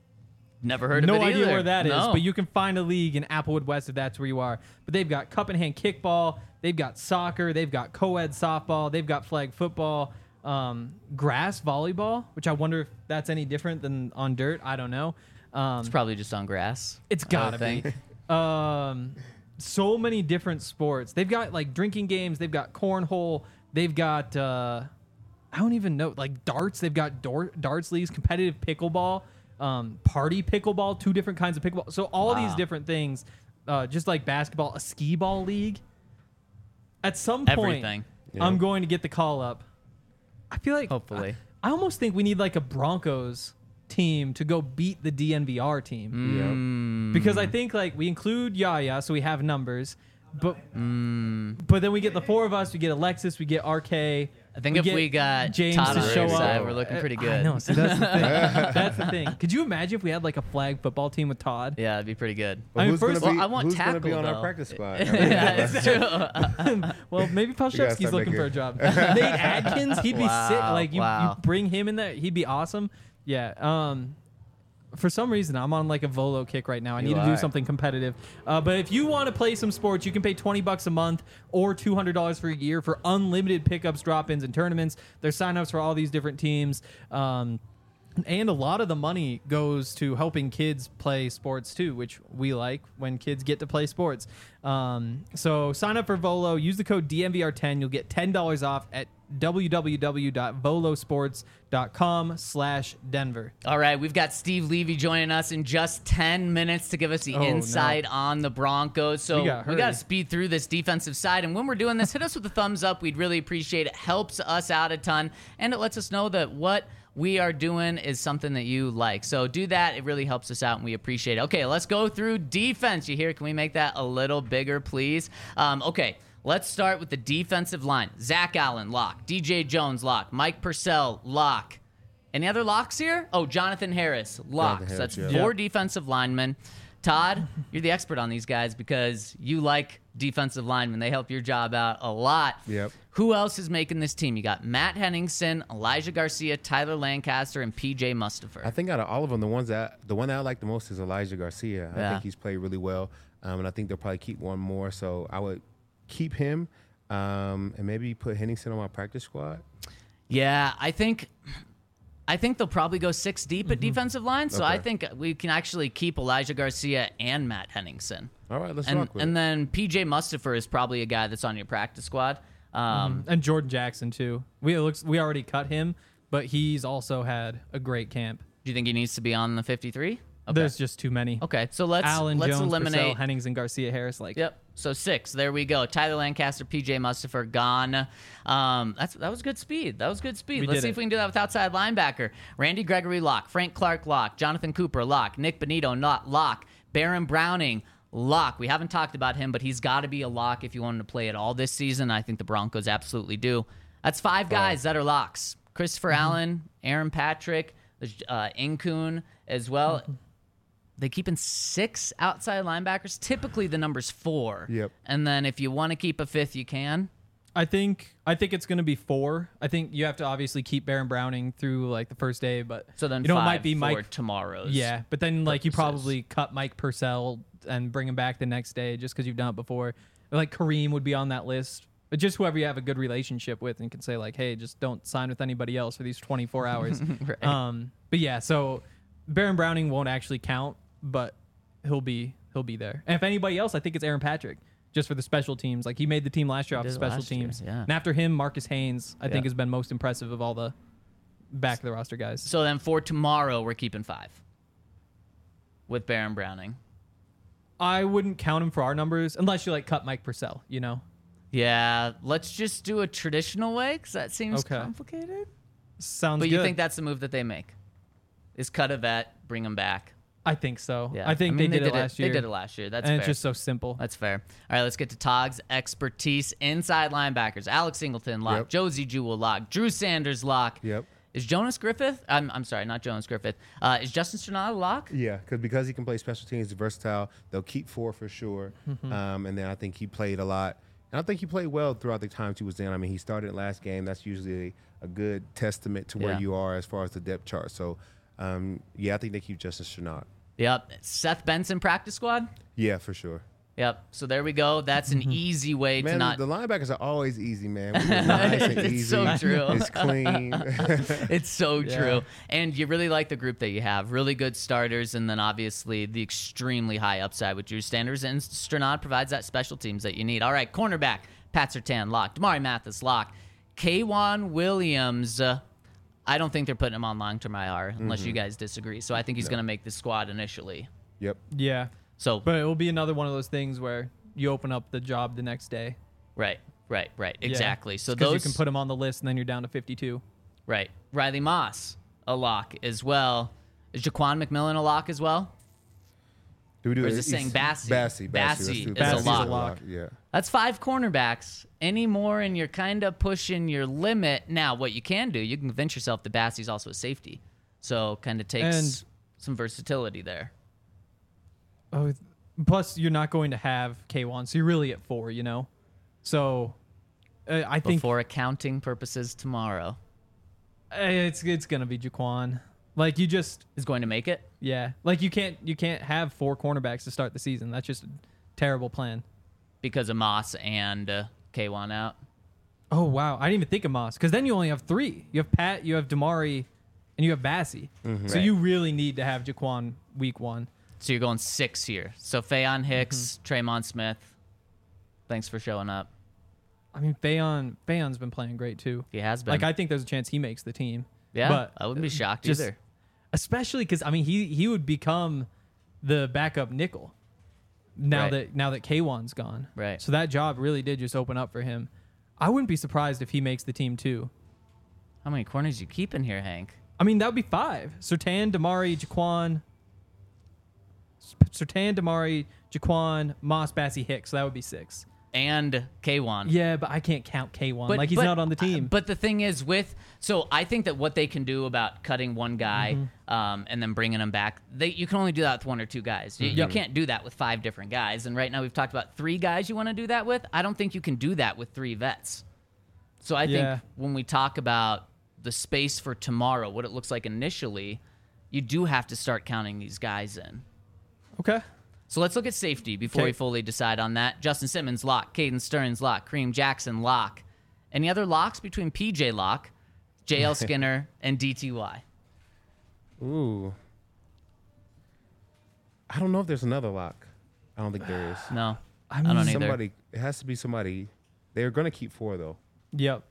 Never heard No of it idea either. where that is, No. but you can find a league in Applewood West if that's where you are. But they've got cup and hand kickball, they've got soccer, they've got co-ed softball, they've got flag football, um, grass volleyball, which I wonder if that's any different than on dirt. I don't know. Um, It's probably just on grass. It's I would gotta think. be. Um, so many different sports. They've got like drinking games. They've got cornhole. They've got uh, I don't even know, like darts. They've got door, darts leagues, competitive pickleball, um, party pickleball, two different kinds of pickleball. So all these Wow. different things, uh, just like basketball, a skee ball league. At some point, Everything. Yeah. I'm going to get the call up. I feel like Hopefully. I, I almost think we need like a Broncos team to go beat the D N V R team. Mm. Because I think like we include Yaya, so we have numbers, but Mm. but then we get the four of us. We get Alexis, we get R K. I think if get we got James Todd to on show our up, side, we're looking pretty I good. know. So that's the thing. That's the thing. Could you imagine if we had like a flag football team with Todd? Yeah, it'd be pretty good. But I mean, who's first- gonna be, Well, I want who's gonna be tackle, on our though. practice squad? Yeah, it's true. Well, maybe gotta Palshevsky's start looking for a making- job. Nate Adkins, he'd be sick. Wow, Like you, wow. you bring him in there, he'd be awesome. Yeah. Um, for some reason, I'm on like a Volo kick right now. I need You to do are. something competitive. Uh, but if you want to play some sports, you can pay twenty bucks a month or two hundred dollars for a year for unlimited pickups, drop-ins, and tournaments. There's sign-ups for all these different teams. Um, and a lot of the money goes to helping kids play sports too, which we like when kids get to play sports. Um, so sign up for Volo. Use the code D M V R ten. You'll get ten dollars off at w w w dot volo sports dot com slash Denver. All right, we've got Steve Levy joining us in just ten minutes to give us the Oh, no. insight on the Broncos. So We we gotta got to hurry. speed through this defensive side. And when we're doing this, hit us with a thumbs up. We'd really appreciate it. Helps us out a ton. And it lets us know that what we are doing is something that you like. So do that. It really helps us out, and we appreciate it. Okay, let's go through defense. You hear? Can we make that a little bigger, please? Um, okay. Let's start with the defensive line. Zach Allen, lock. D J Jones, lock. Mike Purcell, lock. Any other locks here? Oh, Jonathan Harris, lock. Jonathan So that's Harris, yeah. four Yep. defensive linemen. Todd, you're the expert on these guys because you like defensive linemen. They help your job out a lot. Yep. Who else is making this team? You got Matt Henningsen, Elijah Garcia, Tyler Lancaster, and P J Mustafer. I think out of all of them, the ones that the one that I like the most is Elijah Garcia. I Yeah. think he's played really well, um, and I think they'll probably keep one more. So I would keep him, um, and maybe put Henningsen on my practice squad. Yeah, I think I think they'll probably go six deep at defensive line. So I Okay. think we can actually keep Elijah Garcia and Matt Henningsen. All right, let's And, rock with and it. then P J Mustafer is probably a guy that's on your practice squad. Um, And Jordan Jackson too. We it looks we already cut him, but he's also had a great camp. Do you think he needs to be on the fifty-three? Okay. There's just too many. Okay, so let's Allen let's Jones, eliminate. Purcell, Hennings, and Garcia Harris. Like, Yep. So six. There we go. Tyler Lancaster, P J Mustafer gone. Um, that's that was good speed. That was good speed. We Let's did see it. if we can do that with outside linebacker. Randy Gregory lock. Frank Clark lock. Jonathan Cooper lock. Nick Benito not lock. Baron Browning lock. We haven't talked about him, but he's got to be a lock if you want him to play at all this season. I think the Broncos absolutely do. That's five guys that are locks. Christopher Mm-hmm. Allen, Aaron Patrick, there's uh, Incoon as well. Mm-hmm. They keep in six outside linebackers. Typically, the number's four. Yep. And then if you want to keep a fifth, you can. I think I think it's going to be four. I think you have to obviously keep Baron Browning through like the first day, but So then you know five it might be for Mike. tomorrow's. Yeah, but then like you purposes. probably cut Mike Purcell and bring him back the next day just because you've done it before. Like Kareem would be on that list. But just whoever you have a good relationship with and can say like, hey, just don't sign with anybody else for these twenty-four hours. Right. Um, but yeah, so Baron Browning won't actually count, but he'll be he'll be there. And if anybody else, I think it's Aaron Patrick, just for the special teams. Like he made the team last year off did the special last year, teams. yeah. And after him, Marcus Haynes, I think Yeah. has been most impressive of all the back of the roster guys. So then for tomorrow, we're keeping five with Baron Browning. I wouldn't count him for our numbers unless you like cut Mike Purcell, you know. Yeah, let's just do a traditional way because that seems Okay. complicated. Sounds But good. you think that's the move that they make? Is cut a vet, bring him back. I think so. Yeah, I think mean, they, did it last year. They did it last year. That's and fair. it's just so simple. That's fair. All right, let's get to Togg's expertise. Inside linebackers. Alex Singleton lock. Yep. Josie Jewell lock. Drew Sanders lock. Yep. Is Jonas Griffith? I'm, I'm sorry, not Jonas Griffith. Uh, is Justin Sternad a lock? Yeah, because because he can play special teams, he's versatile. They'll keep four for sure. Mm-hmm. Um, and then I think he played a lot. And I think he played well throughout the times he was in. I mean, he started last game. That's usually a, a good testament to where Yeah. you are as far as the depth chart. So, um, yeah, I think they keep Justin Sternad. Yep. Seth Benson practice squad? Yeah, for sure. Yep. So there we go. That's an easy way to Man, not. the linebackers are always easy, man. It's nice and It's easy. so true. It's clean. It's so Yeah. true. And you really like the group that you have. Really good starters, and then obviously the extremely high upside with Drew Sanders. And Sternad provides that special teams that you need. All right, cornerback, Pat Surtain, lock. Damari Mathis, lock. K'Wan Williams, uh, I don't think they're putting him on long-term I R unless Mm-hmm. you guys disagree. So I think he's going to make the squad initially. Yep. Yeah. So, But it will be another one of those things where you open up the job the next day. right, right, right. Yeah. Exactly. So Because those you can put them on the list and then you're down to fifty-two. Right. Riley Moss, a lock as well. Is Jaquan McMillan a lock as well? Do we do Or is it? it saying It's- Bassey? Bassey. Bassey Let's do is Bassey's a lock. lock. Yeah. That's five cornerbacks. Any more, and you're kind of pushing your limit. Now, what you can do, you can convince yourself that Bassey's also a safety. So kind of takes And- some versatility there. Oh, plus you're not going to have K one, so you're really at four, you know? So uh, I think For accounting purposes tomorrow. uh, it's it's going to be Jaquan. Like you just Is going to make it? yeah, like you can't you can't have four cornerbacks to start the season. That's just a terrible plan. Because of Moss and uh, K one out. Oh wow, I didn't even think of Moss because then you only have three. You have Pat, you have Damari, and you have Bassey. So Right. you really need to have Jaquan week one. So you're going six here. So Fayon Hicks, Mm-hmm. Tremon Smith. Thanks for showing up. I mean, Fayon Fayon's been playing great too. He has been. Like I think there's a chance he makes the team. yeah, but I wouldn't be shocked just- either. especially because I mean he he would become the backup nickel now Right. that now that K one's gone. Right. So that job really did just open up for him. I wouldn't be surprised if he makes the team too. How many corners you keeping here, Hank? I mean that would be five: Surtain, Damari, Jaquan. Surtain, Damari, Jaquan, Moss, Bassey, Hicks. So that would be six. And K one. Yeah, but I can't count K one. Like he's not on the team. But the thing is, with so I think that what they can do about cutting one guy Mm-hmm. um, and then bringing him back, they you can only do that with one or two guys. You, you Yep. can't do that with five different guys. And right now we've talked about three guys you want to do that with. I don't think you can do that with three vets. So I Yeah. think when we talk about the space for tomorrow, what it looks like initially, you do have to start counting these guys in. Okay. So let's look at safety before Okay. we fully decide on that. Justin Simmons, lock. Caden Stearns, lock. Kareem Jackson, lock. Any other locks between P J Lock, J L Skinner, and D T Y. Ooh. I don't know if there's another lock. I don't think there is. No, I I, mean, don't either. Somebody, it has to be somebody. They're going to keep four, though. Yep.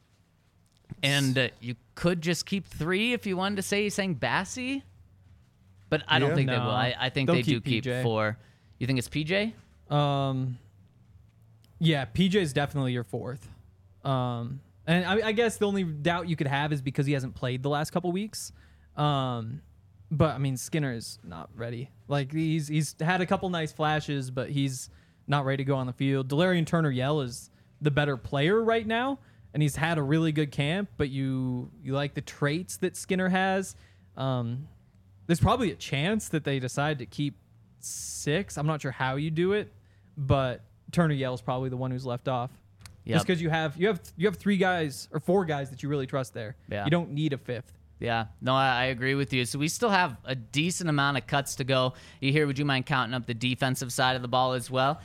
And uh, you could just keep three if you wanted to say you're saying Bassey. But I don't Yeah. think they No. will. I, I think They'll they do keep keep P J. four. You think it's P J? Um, yeah, P J is definitely your fourth. Um, and I, I guess the only doubt you could have is because he hasn't played the last couple weeks. Um, but I mean, Skinner is not ready. Like he's he's had a couple nice flashes, but he's not ready to go on the field. Delarian Turner-Yell is the better player right now, and he's had a really good camp. But you you like the traits that Skinner has. Um, there's probably a chance that they decide to keep six. I'm not sure how you do it, but Turner-Yell is probably the one who's left off. Yep. Just because you have you have you have three guys or four guys that you really trust there. Yeah. You don't need a fifth. Yeah, no, I, I agree with you. So we still have a decent amount of cuts to go. You here? Would you mind counting up the defensive side of the ball as well?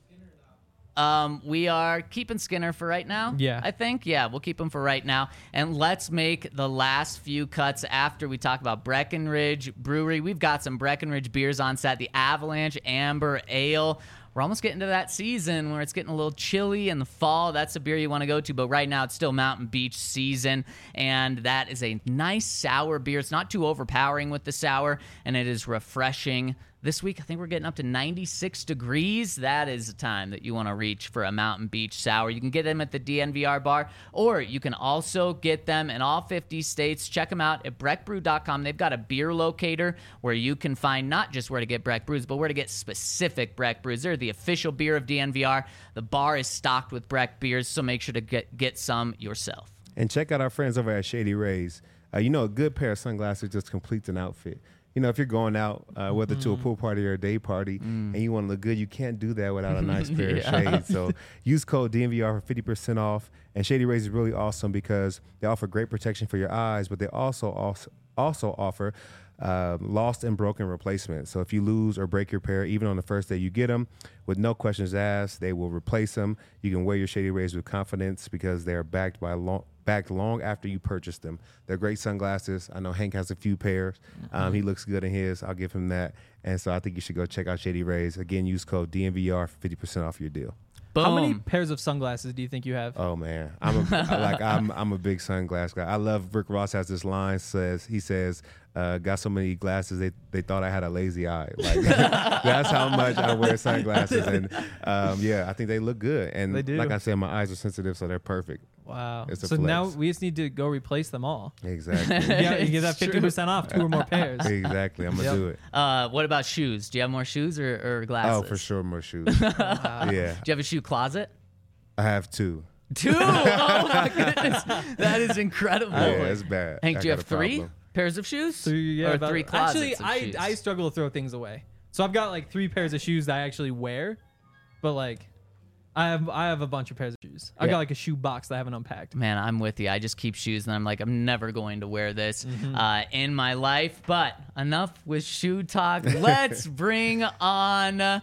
Um, we are keeping Skinner for right now. Yeah. I think. Yeah, we'll keep him for right now. And let's make the last few cuts after we talk about Breckenridge Brewery. We've got some Breckenridge beers on set. The Avalanche Amber Ale. We're almost getting to that season where it's getting a little chilly in the fall. That's a beer you want to go to, but right now it's still Mountain Beach season, and that is a nice sour beer. It's not too overpowering with the sour, and it is refreshing. This week, I think we're getting up to ninety-six degrees. That is the time that you want to reach for a Mountain Beach sour. You can get them at the D N V R bar, or you can also get them in all fifty states. Check them out at breck brew dot com. They've got a beer locator where you can find not just where to get Breck brews, but where to get specific Breck brews. They're the official beer of D N V R. The bar is stocked with Breck beers, so make sure to get, get some yourself. And check out our friends over at Shady Rays. Uh, you know, a good pair of sunglasses just completes an outfit. You know, if you're going out, uh, whether to a pool party or a day party, Mm. and you want to look good, you can't do that without a nice pair Yeah. of shades. So use code D N V R for fifty percent off. And Shady Rays is really awesome because they offer great protection for your eyes, but they also also, also offer uh, lost and broken replacements. So if you lose or break your pair, even on the first day you get them, with no questions asked, they will replace them. You can wear your Shady Rays with confidence because they are backed by long. back long after you purchased them. They're great sunglasses. I know Hank has a few pairs. Um, he looks good in his. I'll give him that. And so I think you should go check out Shady Rays. Again, use code D N V R for fifty percent off your deal. Boom. How many pairs of sunglasses do you think you have? Oh man, I'm a, I like I'm I'm a big sunglass guy. I love Rick Ross has this line says he says uh, got so many glasses they they thought I had a lazy eye. Like that's how much I wear sunglasses, and um, yeah, I think they look good. And They do. like I said, my eyes are sensitive, so they're perfect. Wow. It's a So flex. now we just need to go replace them all. Exactly, Yeah, you get that It's true. fifty percent off, two or more pairs. exactly. I'm gonna Yep. do it. Uh, what about shoes? Do you have more shoes or, or Oh, glasses? for sure, more shoes. Yeah, Do you have a shoe closet? I have two. Two? Oh my goodness, that is incredible. Yeah, it's bad. Hank, I do you got have a three problem. pairs of shoes? Three, yeah, or about- three closets Actually, of I shoes? I struggle to throw things away. So I've got like three pairs of shoes that I actually wear, but like I have I have a bunch of pairs of shoes. I've Yeah. got like a shoe box that I haven't unpacked. Man, I'm with you. I just keep shoes, and I'm like, I'm never going to wear this Mm-hmm. uh, in my life. But enough with shoe talk. Let's bring on uh,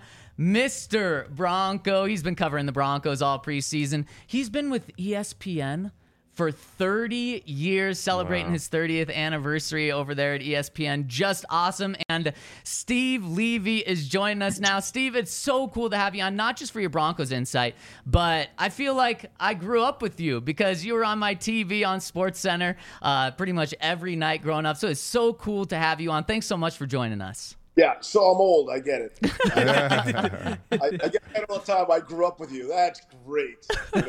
Mister Bronco. He's been covering the Broncos all preseason. He's been with E S P N for thirty years, celebrating Wow. his thirtieth anniversary over there at E S P N. Just awesome. And Steve Levy is joining us now. Steve, it's so cool to have you on, not just for your Broncos insight, but I feel like I grew up with you because you were on my T V on SportsCenter uh, pretty much every night growing up. So it's so cool to have you on. Thanks so much for joining us. Yeah, so I'm old. I get it. I, I get it all the time. I grew up with you. That's great.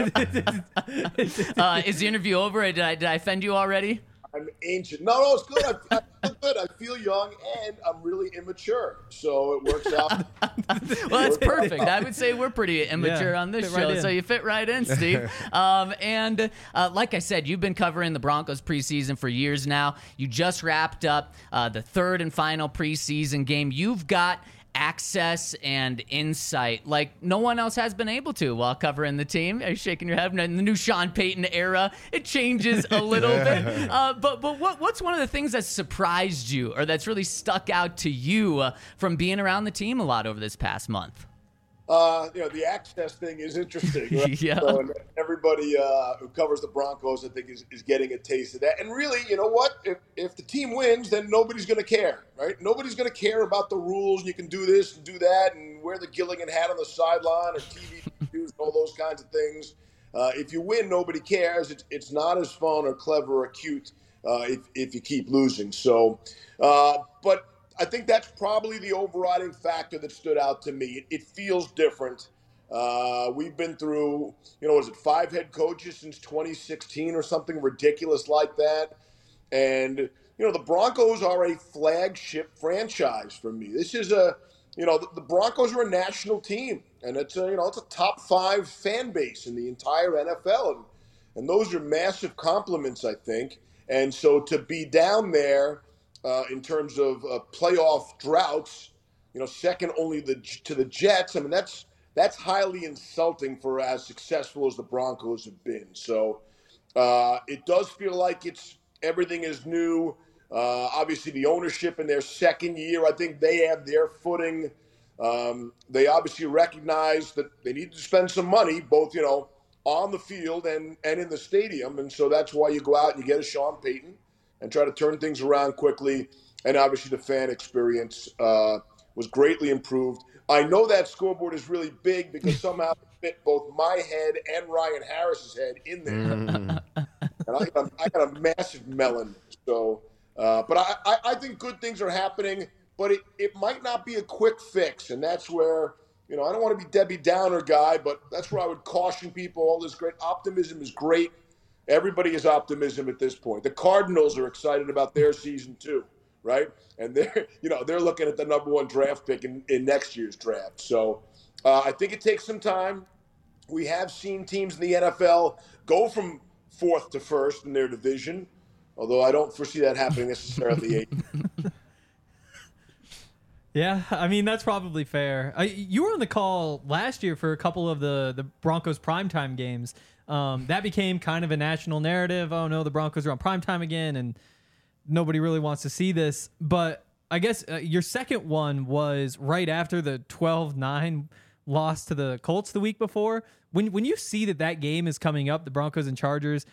Uh, is the interview over? Did I, did I offend you already? I'm ancient. No, no, it's good. I, I feel good. I feel young, and I'm really immature. So it works out. Well, that's perfect. I would say we're pretty immature Yeah, on this fit right show, in. so you fit right in, Steve. um, and uh, like I said, you've been covering the Broncos preseason for years now. You just wrapped up uh, the third and final preseason game. You've got access and insight like no one else has been able to while covering the team. Are you shaking your head? In the new Sean Payton era, it changes a little bit. Uh, but but what what's one of the things that surprised you or that's really stuck out to you uh, from being around the team a lot over this past month? Uh, you know, the access thing is interesting. Right? Yeah. So, and everybody uh, who covers the Broncos, I think, is, is getting a taste of that. And really, you know what? If, if the team wins, then nobody's going to care, right? Nobody's going to care about the rules. You can do this and do that and wear the Gilligan hat on the sideline or T V news, all those kinds of things. Uh, if you win, nobody cares. It's, it's not as fun or clever or cute uh, if, if you keep losing. So, uh, but I think that's probably the overriding factor that stood out to me. It, it feels different. Uh, we've been through, you know, was it five head coaches since twenty sixteen or something ridiculous like that? And, you know, the Broncos are a flagship franchise for me. This is a, you know, the, the Broncos are a national team, and it's a, you know, it's a top five fan base in the entire N F L. And, and those are massive compliments, I think. And so to be down there, Uh, in terms of uh, playoff droughts, you know, second only the, to the Jets. I mean, that's that's highly insulting for as successful as the Broncos have been. So uh, it does feel like it's everything is new. Uh, obviously, the ownership in their second year, I think they have their footing. Um, they obviously recognize that they need to spend some money, both, you know, on the field and, and in the stadium. And so that's why you go out and you get a Sean Payton and try to turn things around quickly. And obviously the fan experience uh, was greatly improved. I know that scoreboard is really big because somehow it fit both my head and Ryan Harris's head in there. Mm. And I got, a, I got a massive melon. So, uh, but I, I, I think good things are happening, but it, it might not be a quick fix. And that's where, you know, I don't want to be Debbie Downer guy, but that's where I would caution people. All this great optimism is great. Everybody is optimism at this point. The Cardinals are excited about their season too, right? And they're, you know, they're looking at the number one draft pick in, in next year's draft. So uh, I think it takes some time. We have seen teams in the N F L go from fourth to first in their division, although I don't foresee that happening necessarily. Yeah, I mean, that's probably fair. I, you were on the call last year for a couple of the, the Broncos primetime games. Um, that became kind of a national narrative. Oh, no, the Broncos are on primetime again, and nobody really wants to see this. But I guess uh, your second one was right after the twelve nine loss to the Colts the week before. When, when you see that that game is coming up, the Broncos and Chargers,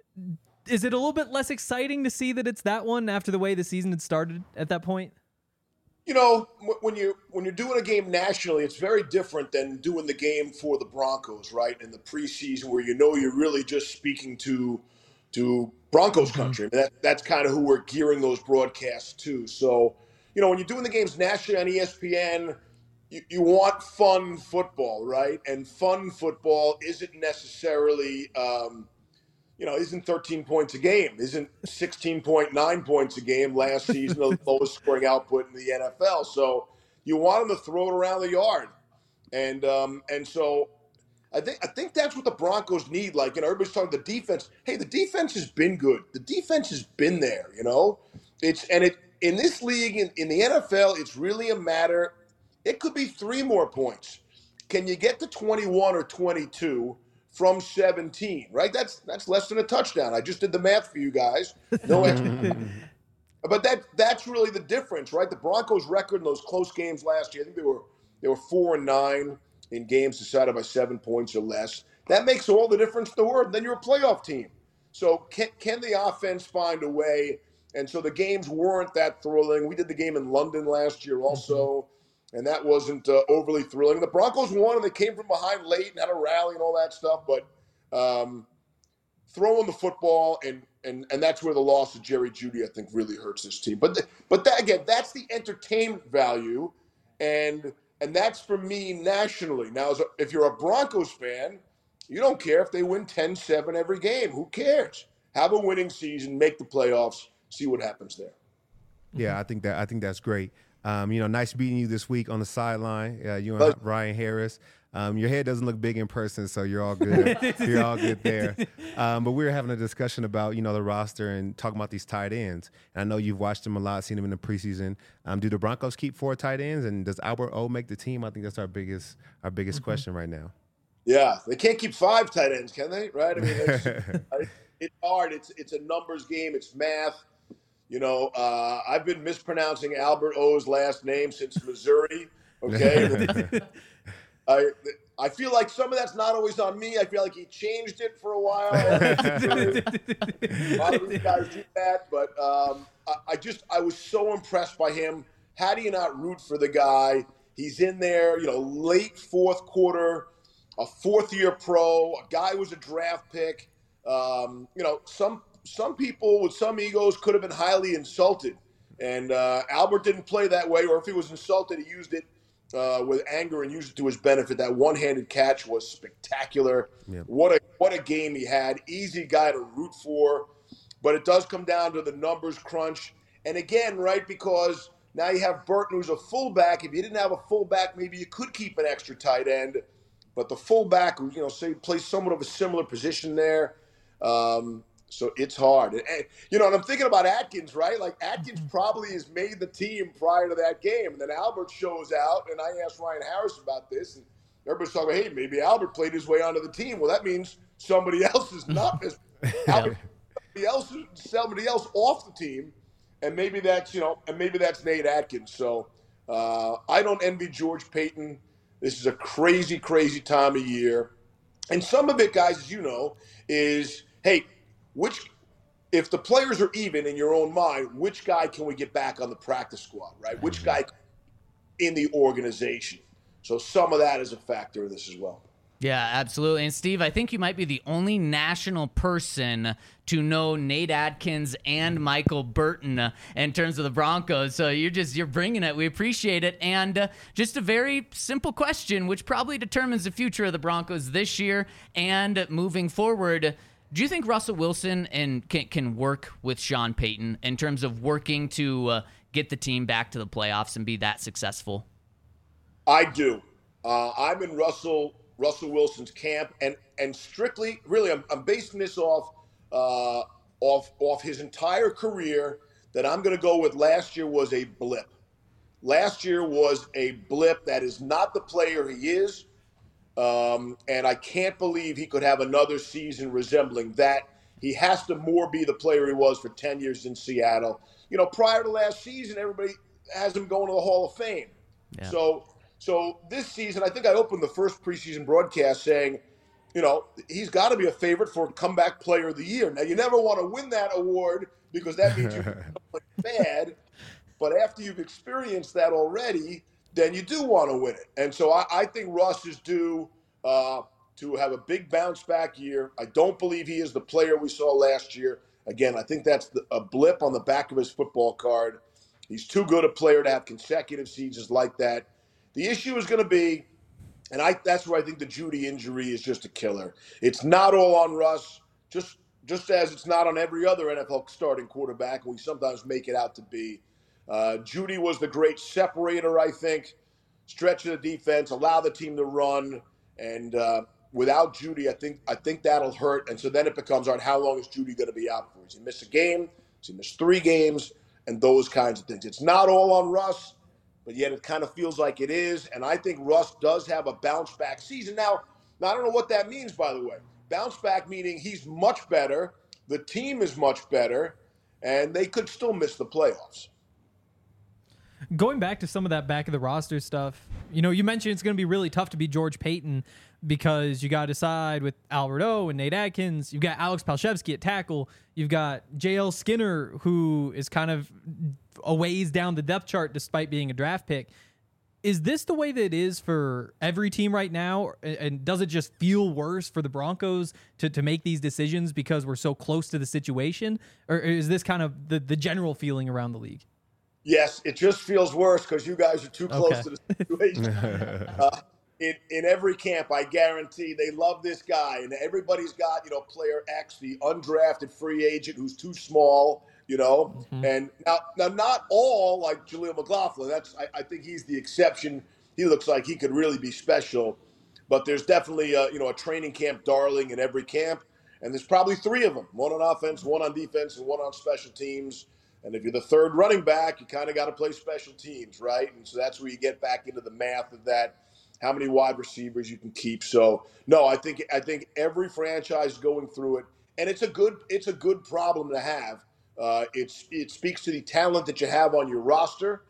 is it a little bit less exciting to see that it's that one after the way the season had started at that point? You know, when you when you're doing a game nationally, it's very different than doing the game for the Broncos, right? In the preseason, where you know you're really just speaking to to Broncos country. Mm-hmm. I mean, that, that's kind of who we're gearing those broadcasts to. So, you know, when you're doing the games nationally on E S P N, you, you want fun football, right? And fun football isn't necessarily, um, you know, isn't thirteen points a game, isn't sixteen point nine points a game last season, the lowest scoring output in the N F L. So you want them to throw it around the yard. And um, and so I think I think that's what the Broncos need. Like, you know, everybody's talking the defense. Hey, the defense has been good. The defense has been there, you know. It's and it in this league, in, in the N F L, it's really a matter. It could be three more points. Can you get to twenty-one or twenty-two from seventeen, right? That's that's less than a touchdown. I just did the math for you guys. No extra. But that that's really the difference, right? The Broncos' record in those close games last year, I think they were they were four and nine in games decided by seven points or less. That makes all the difference in the world. Then you're a playoff team. So can can the offense find a way? And so the games weren't that thrilling. We did the game in London last year also. And that wasn't uh, overly thrilling. The Broncos won, and they came from behind late and had a rally and all that stuff. But um, throwing the football, and and and that's where the loss of Jerry Jeudy, I think, really hurts this team. But the, but that, again, that's the entertainment value, and and that's for me nationally. Now, as a, if you're a Broncos fan, you don't care if they win ten seven every game. Who cares? Have a winning season, make the playoffs, see what happens there. Yeah, I think that I think that's great. Um, you know, nice meeting you this week on the sideline. Uh, you and Ryan Harris. Um, your head doesn't look big in person, so you're all good. You're all good there. Um, but we were having a discussion about, you know, the roster and talking about these tight ends. And I know you've watched them a lot, seen them in the preseason. Um, do the Broncos keep four tight ends, and does Albert O make the team? I think that's our biggest our biggest mm-hmm. question right now. Yeah, they can't keep five tight ends, can they? Right? I mean, it's, it's hard. It's it's a numbers game. It's math. You know, uh, I've been mispronouncing Albert O's last name since Missouri, okay? I I feel like some of that's not always on me. I feel like he changed it for a while. A lot of these guys do that, but um, I, I just I was so impressed by him. How do you not root for the guy? He's in there, you know, late fourth quarter, a fourth-year pro, a guy who was a draft pick. Um, you know, some some people with some egos could have been highly insulted, and uh, Albert didn't play that way. Or if he was insulted, he used it uh, with anger and used it to his benefit. That one-handed catch was spectacular. Yeah. What a what a game he had. Easy guy to root for, but it does come down to the numbers crunch. And again, right, because now you have Burton, who's a fullback. If you didn't have a fullback, maybe you could keep an extra tight end. But the fullback, who, you know, say plays somewhat of a similar position there. Um, so it's hard. And, and, you know, and I'm thinking about Atkins, right? Like, Atkins probably has made the team prior to that game. And then Albert shows out, and I asked Ryan Harris about this. And everybody's talking about, hey, maybe Albert played his way onto the team. Well, that means somebody else is not. Albert, somebody else, somebody else off the team. And maybe that's, you know, and maybe that's Nate Atkins. So uh, I don't envy George Paton. This is a crazy, crazy time of year. And some of it, guys, as you know, is, hey, which, if the players are even in your own mind, which guy can we get back on the practice squad, right? Which guy in the organization? So some of that is a factor in this as well. Yeah, absolutely. And Steve, I think you might be the only national person to know Nate Atkins and Michael Burton uh, in terms of the Broncos. So you're just, you're bringing it. We appreciate it. And uh, just a very simple question, which probably determines the future of the Broncos this year and moving forward. Do you think Russell Wilson and can, can work with Sean Payton in terms of working to uh, get the team back to the playoffs and be that successful? I do. Uh, I'm in Russell Russell Wilson's camp, and and strictly, really, I'm, I'm basing this off uh, off off his entire career. That I'm going to go with last year was a blip. Last year was a blip. That is not the player he is, um, and I can't believe he could have another season resembling that. He has to more be the player he was for ten years in Seattle. You know, prior to last season, everybody has him going to the Hall of Fame. Yeah. So. So this season, I think I opened the first preseason broadcast saying, you know, he's got to be a favorite for comeback player of the year. Now, you never want to win that award because that means you're bad. But after you've experienced that already, then you do want to win it. And so I, I think Russ is due uh, to have a big bounce back year. I don't believe he is the player we saw last year. Again, I think that's the, a blip on the back of his football card. He's too good a player to have consecutive seasons like that. The issue is going to be, and I that's where I think the Jeudy injury is just a killer. It's not all on Russ, just just as it's not on every other N F L starting quarterback, and we sometimes make it out to be. Uh, Jeudy was the great separator, I think, stretch of the defense, allow the team to run, and uh, without Jeudy, I think I think that'll hurt. And so then it becomes, all right, how long is Jeudy going to be out for? Does he miss a game? Does he miss three games? And those kinds of things. It's not all on Russ. But yet it kind of feels like it is. And I think Russ does have a bounce back season. Now, now, I don't know what that means, by the way. Bounce back meaning he's much better, the team is much better, and they could still miss the playoffs. Going back to some of that back of the roster stuff, you know, you mentioned it's going to be really tough to be George Paton because you got to decide with Albert O and Nate Atkins. You've got Alex Palshevsky at tackle. You've got J L Skinner, who is kind of a ways down the depth chart despite being a draft pick. Is this the way that it is for every team right now? And does it just feel worse for the Broncos to, to make these decisions because we're so close to the situation? Or is this kind of the, the general feeling around the league? Yes, it just feels worse because you guys are too close okay. to the situation. uh, in, in every camp, I guarantee they love this guy. And everybody's got, you know, player X, the undrafted free agent who's too small, you know. Mm-hmm. And now, now, not all like Jaleel McLaughlin. That's I, I think he's the exception. He looks like he could really be special. But there's definitely, a, you know, a training camp darling in every camp. And there's probably three of them, one on offense, one on defense, and one on special teams. And if you're the third running back, you kind of got to play special teams, right? And so that's where you get back into the math of that, how many wide receivers you can keep. So, no, I think I think every franchise is going through it, and it's a good it's a good problem to have. Uh, it's it speaks to the talent that you have on your roster,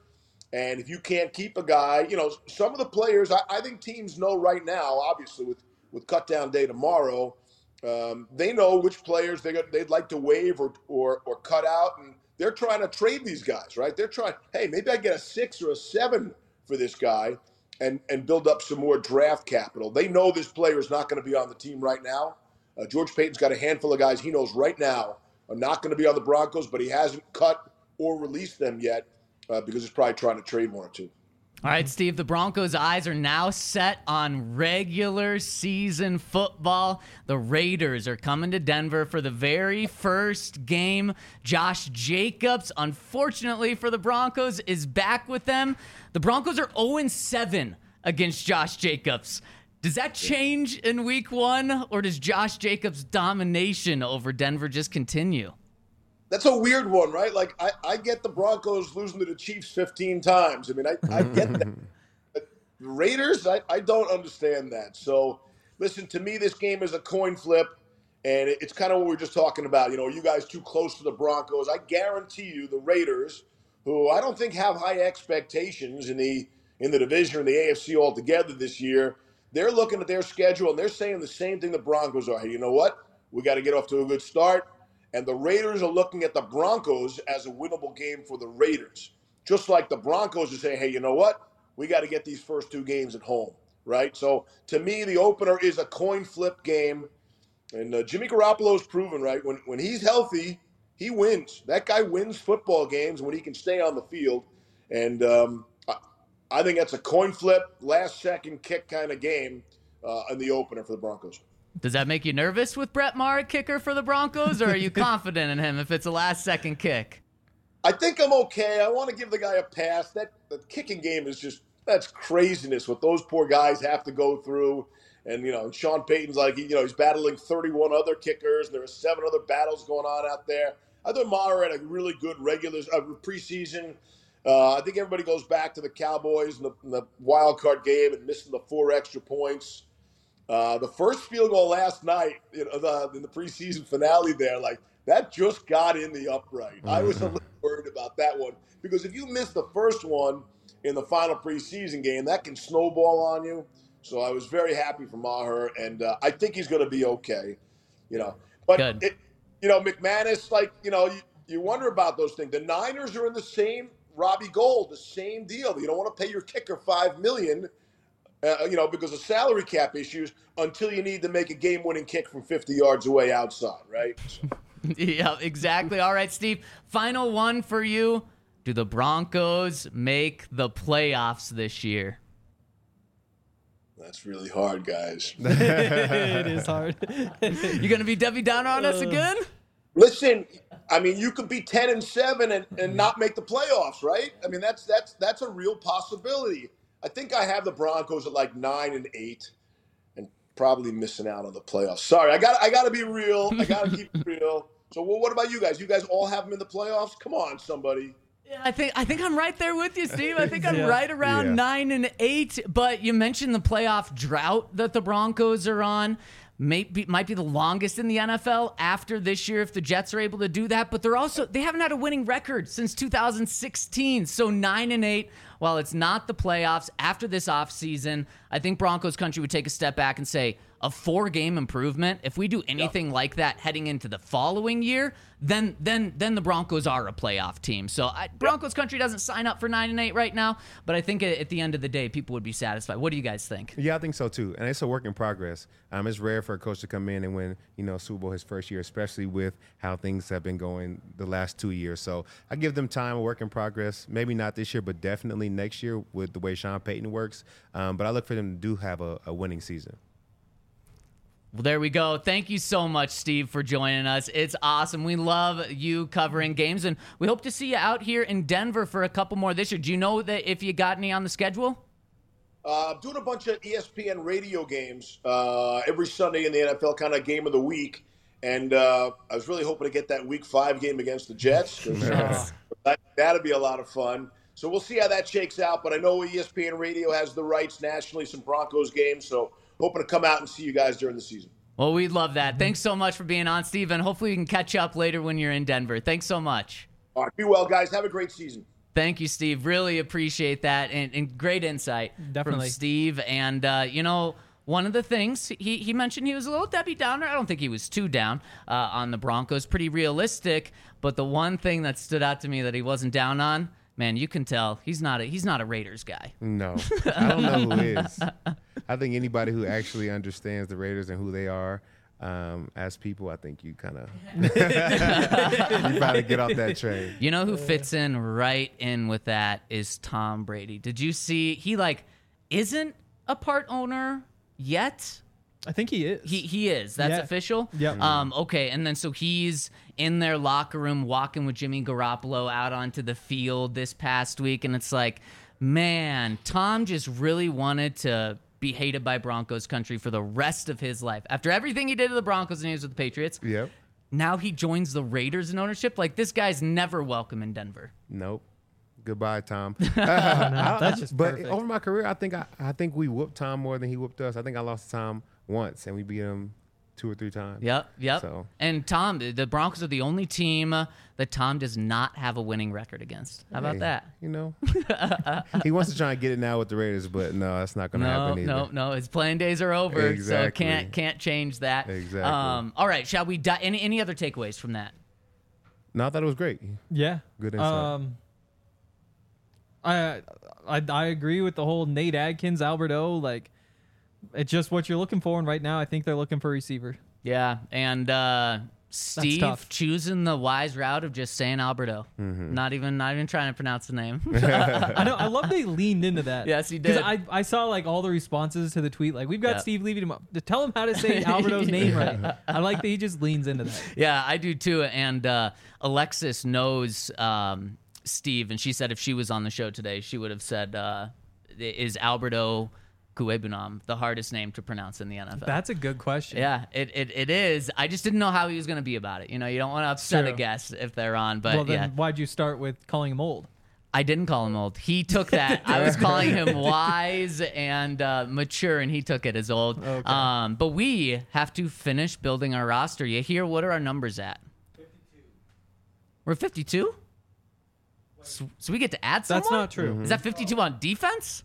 And if you can't keep a guy, you know, some of the players, I, I think teams know right now, obviously with, with cut down day tomorrow, um, they know which players they got, they'd like to waive or, or, or cut out. And they're trying to trade these guys, right? They're trying, hey, maybe I get a six or a seven for this guy and, and build up some more draft capital. They know this player is not going to be on the team right now. Uh, George Paton's got a handful of guys he knows right now are not going to be on the Broncos, but he hasn't cut or released them yet. Uh, because he's probably trying to trade one or two. All right, Steve, the Broncos' eyes are now set on regular season football. The Raiders are coming to Denver for the very first game. Josh Jacobs, unfortunately for the Broncos, is back with them. The Broncos are oh and seven against Josh Jacobs. Does that change in week one, or does Josh Jacobs' domination over Denver just continue? That's a weird one, right? Like, I, I get the Broncos losing to the Chiefs fifteen times. I mean, I, I get that. But the Raiders, I, I don't understand that. So, listen, to me, this game is a coin flip, and it, it's kind of what we were just talking about. You know, are you guys too close to the Broncos? I guarantee you the Raiders, who I don't think have high expectations in the in the division or in the A F C altogether this year, they're looking at their schedule, and they're saying the same thing the Broncos are. Hey, you know what? We got to get off to a good start. And the Raiders are looking at the Broncos as a winnable game for the Raiders. Just like the Broncos are saying, hey, you know what? We got to get these first two games at home, right? So, to me, the opener is a coin flip game. And uh, Jimmy Garoppolo's proven, right? When, when he's healthy, he wins. That guy wins football games when he can stay on the field. And um, I, I think that's a coin flip, last-second kick kind of game uh, in the opener for the Broncos. Does that make you nervous with Brett Maher, kicker for the Broncos, or are you confident in him if it's a last-second kick? I think I'm okay. I want to give the guy a pass. That the kicking game is just that's craziness what those poor guys have to go through. And you know, Sean Payton's like you know he's battling thirty-one other kickers, and there are seven other battles going on out there. I thought Maher had a really good regular uh, preseason. Uh, I think everybody goes back to the Cowboys and the, and the wild card game and missing the four extra points. Uh, the first field goal last night, you know, the, in the preseason finale there, like that just got in the upright. Mm-hmm. I was a little worried about that one because if you miss the first one in the final preseason game, that can snowball on you. So I was very happy for Maher, and uh, I think he's going to be okay. You know, but it, you know, McManus, like you know, you, you wonder about those things. The Niners are in the same Robbie Gould, the same deal. You don't want to pay your kicker five million dollars. Uh, you know, because of salary cap issues until you need to make a game-winning kick from fifty yards away outside, right? Yeah, exactly. All right, Steve, final one for you. Do the Broncos make the playoffs this year? That's really hard, guys. It is hard. You going to be Debbie Downer on us again? Listen, I mean, you could be ten and seven and, and not make the playoffs, right? I mean, that's that's that's a real possibility. I think I have the Broncos at like nine and eight, and probably missing out on the playoffs. Sorry, I got I got to be real. I got to keep it real. So, well, what about you guys? You guys all have them in the playoffs? Come on, somebody. Yeah, I think I think I'm right there with you, Steve. I think I'm yeah. right around yeah. nine and eight. But you mentioned the playoff drought that the Broncos are on. Maybe might be the longest in the N F L after this year if the Jets are able to do that. But they're also they haven't had a winning record since two thousand sixteen. So nine and eight. While it's not the playoffs after this offseason, I think Broncos country would take a step back and say a four-game improvement. If we do anything yep. like that heading into the following year, then then then the Broncos are a playoff team. So I, Broncos country doesn't sign up for nine and eight right now, but I think at the end of the day, people would be satisfied. What do you guys think? Yeah, I think so too. And it's a work in progress. Um, it's rare for a coach to come in and win, you know, Super Bowl his first year, especially with how things have been going the last two years. So I give them time, a work in progress. Maybe not this year, but definitely next year with the way Sean Payton works. Um, but I look for them to do have a, a winning season. Well, there we go. Thank you so much, Steve, for joining us. It's awesome. We love you covering games, and we hope to see you out here in Denver for a couple more this year. Do you know that if you got any on the schedule? Uh, I'm doing a bunch of E S P N radio games uh, every Sunday in the N F L, kind of game of the week. And uh, I was really hoping to get that week five game against the Jets. Yes. that, that'd be a lot of fun. So we'll see how that shakes out. But I know E S P N Radio has the rights nationally, some Broncos games. So hoping to come out and see you guys during the season. Well, we'd love that. Thanks so much for being on, Steve, and hopefully we can catch up later when you're in Denver. Thanks so much. All right, be well, guys. Have a great season. Thank you, Steve. Really appreciate that, and, and great insight Definitely. from Steve. And uh, you know, one of the things he he mentioned, he was a little Debbie Downer. I don't think he was too down uh, on the Broncos. Pretty realistic. But the one thing that stood out to me that he wasn't down on, man, you can tell he's not a he's not a Raiders guy. No, I don't know who is. I think anybody who actually understands the Raiders and who they are um, as people, I think you kind of you probably get off that train. You know who fits in right in with that is Tom Brady. Did you see he like isn't a part owner yet? I think he is. He he is. That's Yeah. official. Yep. Um. Okay. And then so he's in their locker room walking with Jimmy Garoppolo out onto the field this past week, and it's like, man, Tom just really wanted to be hated by Broncos country for the rest of his life. After everything he did to the Broncos and he was with the Patriots, Yep. now he joins the Raiders in ownership. Like this guy's never welcome in Denver. Nope. Goodbye, Tom. That's just but perfect. over my career, I think I, I think we whooped Tom more than he whooped us. I think I lost to Tom once, and we beat him two or three times. Yep, yep. So- And Tom, the Broncos are the only team uh, that Tom does not have a winning record against. How about Hey, that? You know, he wants to try and get it now with the Raiders, but no, that's not going to No, happen either. no, no. His playing days are over, so Exactly. can't can't change that. Exactly. Um, all right, shall we? Di- any any other takeaways from that? No, I thought it was great. Yeah. Good insight. Um, I, I I agree with the whole Nate Adkins, Albert O. Like, it's just what you're looking for, and right now I think they're looking for a receiver. Yeah, and uh, Steve tough. choosing the wise route of just saying Alberto, Mm-hmm. not even not even trying to pronounce the name. I know. I love they leaned into that. Yes, he Because did. I, I saw like all the responses to the tweet. Like, we've got Yeah. Steve leaving him up to tell him how to say Alberto's name right. I like that he just leans into that. Yeah, I do too. And uh, Alexis knows um, Steve, and she said if she was on the show today, she would have said, uh, "Is Alberto Cuebunam the hardest name to pronounce in the N F L?" That's a good question. Yeah, it, it, it is. I just didn't know how he was going to be about it. You know, you don't want to upset a True. guest if they're on, but Well, then yeah. why'd you start with calling him old? I didn't call him old. He took that. I was calling him wise and uh, mature, and he took it as old. Okay. Um, but we have to finish building our roster. You hear? What are our numbers at? fifty-two. We're fifty-two? So, so we get to add someone? That's not true. Is that fifty-two on defense?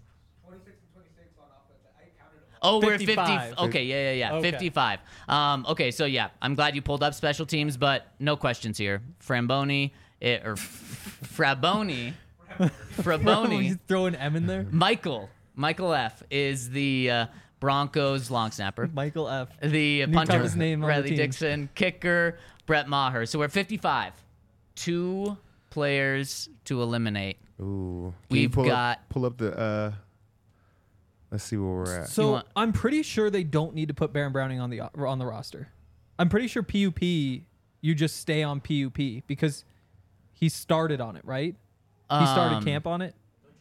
Oh, we're at fifty. fifty-five. Okay, yeah, yeah, yeah. Okay. fifty-five. Um, okay, so yeah, I'm glad you pulled up special teams, but no questions here. Framboni, eh, or Fraboni, You Fraboni, throw an M in there? Michael, Michael F. is the uh, Broncos long snapper. Michael F. The New punter, toughest name on the Riley team. Dixon, kicker, Brett Maher. So we're at fifty-five. Two players to eliminate. Ooh. Can you We've pull got- Up, pull up the. Uh, let's see where we're at. So want- I'm pretty sure they don't need to put Baron Browning on the on the roster. I'm pretty sure P U P, you just stay on P U P because he started on it, right? He started Um, camp on it.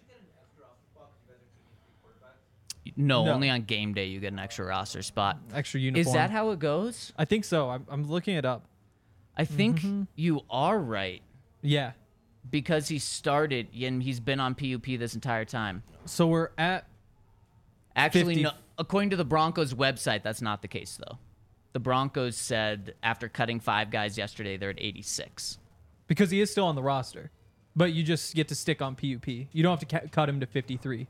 No, No. only on game day you get an extra roster spot. Extra uniform. Is that how it goes? I think so. I'm, I'm looking it up. I think Mm-hmm. you are right Yeah. because he started and he's been on P U P this entire time. So we're at Actually, fifty no, according to the Broncos website, that's not the case though. The Broncos said after cutting five guys yesterday, they're at eighty-six. because he is still on the roster, but you just get to stick on P U P. You don't have to ca- cut him to fifty-three.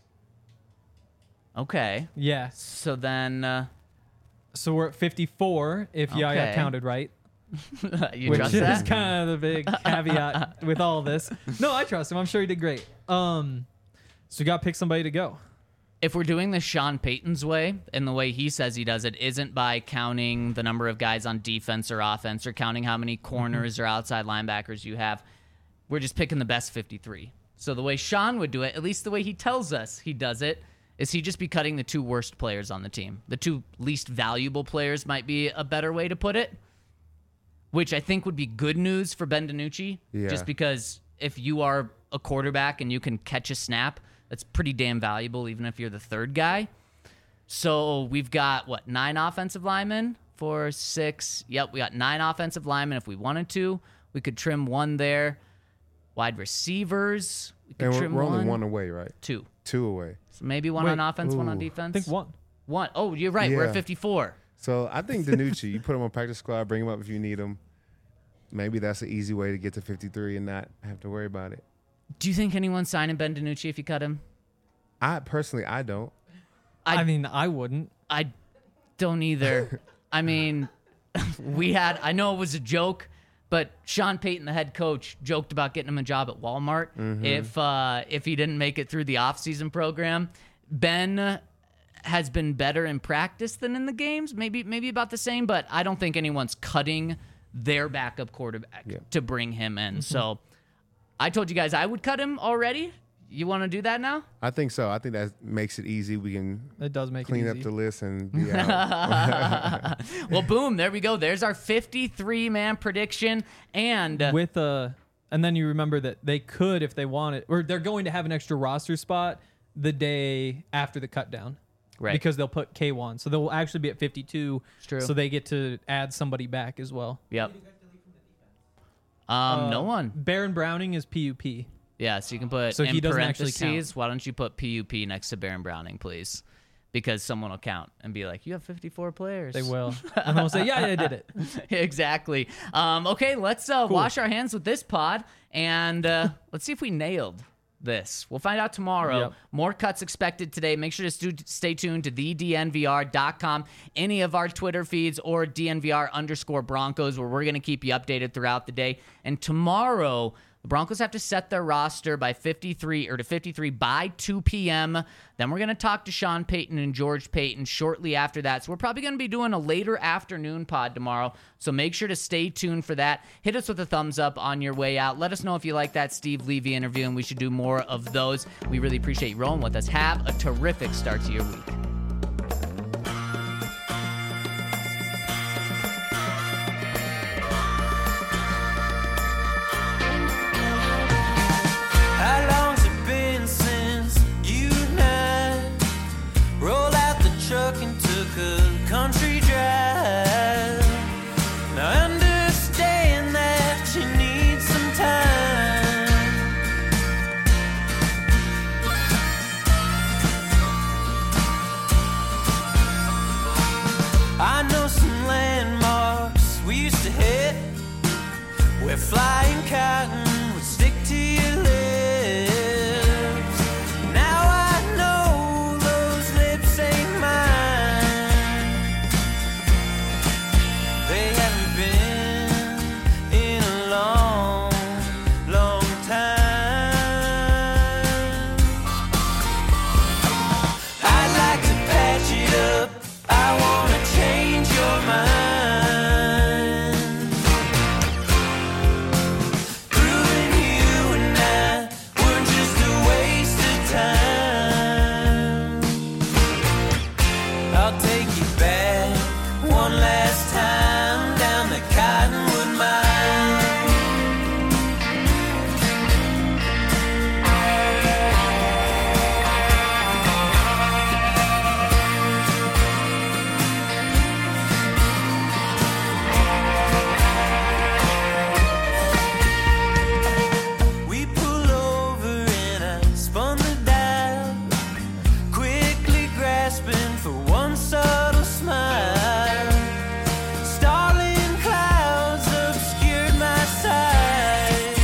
Okay, Yeah. so then uh, So we're at fifty-four if Yaya Okay. counted right. you Which trust is that? kind of the big caveat with all this. No, I trust him. I'm sure he did great. Um, so you got to pick somebody to go. If we're doing this Sean Payton's way, and the way he says he does it isn't by counting the number of guys on defense or offense or counting how many corners or outside linebackers you have, we're just picking the best fifty-three. So the way Sean would do it, at least the way he tells us he does it, is he just be cutting the two worst players on the team. The two least valuable players might be a better way to put it, which I think would be good news for Ben DiNucci, Yeah. just because if you are a quarterback and you can catch a snap, that's pretty damn valuable, even if you're the third guy. So we've got, what, nine offensive linemen? Four, six. Yep, we got nine offensive linemen. If we wanted to, we could trim one there. Wide receivers, we could And we're, trim we're only one. one away, right? Two. Two away. So maybe one Wait, on offense, one on ooh. defense. I think one. One. Oh, you're right. We're Yeah. at fifty-four. So I think DiNucci, you put him on practice squad, bring him up if you need him. Maybe that's an easy way to get to fifty-three and not have to worry about it. Do you think anyone's signing Ben DiNucci if you cut him? I personally, I don't. I- I mean, I wouldn't. I don't either. I mean, we had, I know it was a joke, but Sean Payton, the head coach, joked about getting him a job at Walmart Mm-hmm. if uh, if he didn't make it through the offseason program. Ben has been better in practice than in the games, maybe maybe about the same, but I don't think anyone's cutting their backup quarterback Yeah. to bring him in. Mm-hmm. So I told you guys I would cut him already. You want to do that now? I think so. I think that makes it easy. We can It does make clean it up easy. the list and be out. Well, boom, there we go. There's our fifty-three man prediction. And uh, With a, and then you remember that they could, if they wanted, or they're going to have an extra roster spot the day after the cut down. Right. Because they'll put K one. So they'll actually be at fifty-two. It's true. So they get to add somebody back as well. Yep. Um, no Uh, one. Baron Browning is P U P. Yeah, so you can put So in he doesn't actually parentheses. count. Why don't you put P U P next to Baron Browning, please? Because someone will count and be like, "You have fifty-four players." They will. And they'll say, yeah, yeah, I did it. Exactly. Um, okay, let's uh, wash our hands with this pod and uh, let's see if we nailed this. We'll find out tomorrow. Yep. More cuts expected today. Make sure to stu- stay tuned to the D N V R dot com, any of our Twitter feeds, or D N V R underscore Broncos, where we're going to keep you updated throughout the day. And tomorrow, the Broncos have to set their roster by fifty-three or to fifty-three by two p.m. Then we're going to talk to Sean Payton and George Payton shortly after that. So we're probably going to be doing a later afternoon pod tomorrow. So make sure to stay tuned for that. Hit us with a thumbs up on your way out. Let us know if you like that Steve Levy interview, and we should do more of those. We really appreciate you rolling with us. Have a terrific start to your week. How long's it been since you and I rolled out the truck and took a country drive? Now understand that you need some time. I know some landmarks we used to hit where flying cotton would stick to your lips. Now I know those lips ain't mine. They haven't been in a long, long time. I'd like to patch it up. I wanna change your mind. Proving you and I were just a waste of time. I'll take you back one last time down the Cottonwood Mine. We pull over and I spun the dial, quickly grasping for one subtle smile. Starling clouds obscured my sight.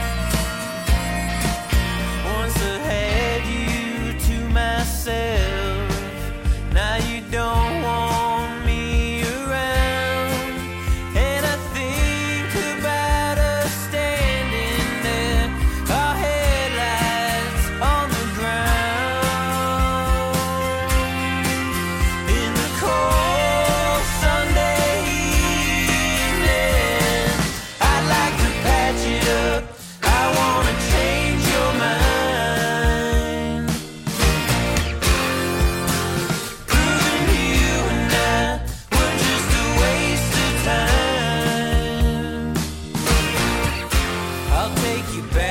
Once I had you to myself, now you don't want me around. And I think about us standing there, our headlights on the ground. In the cold Sunday evening, I'd like to patch it up. I wanna change your mind. Proving you and I were just a waste of time. I'll take you back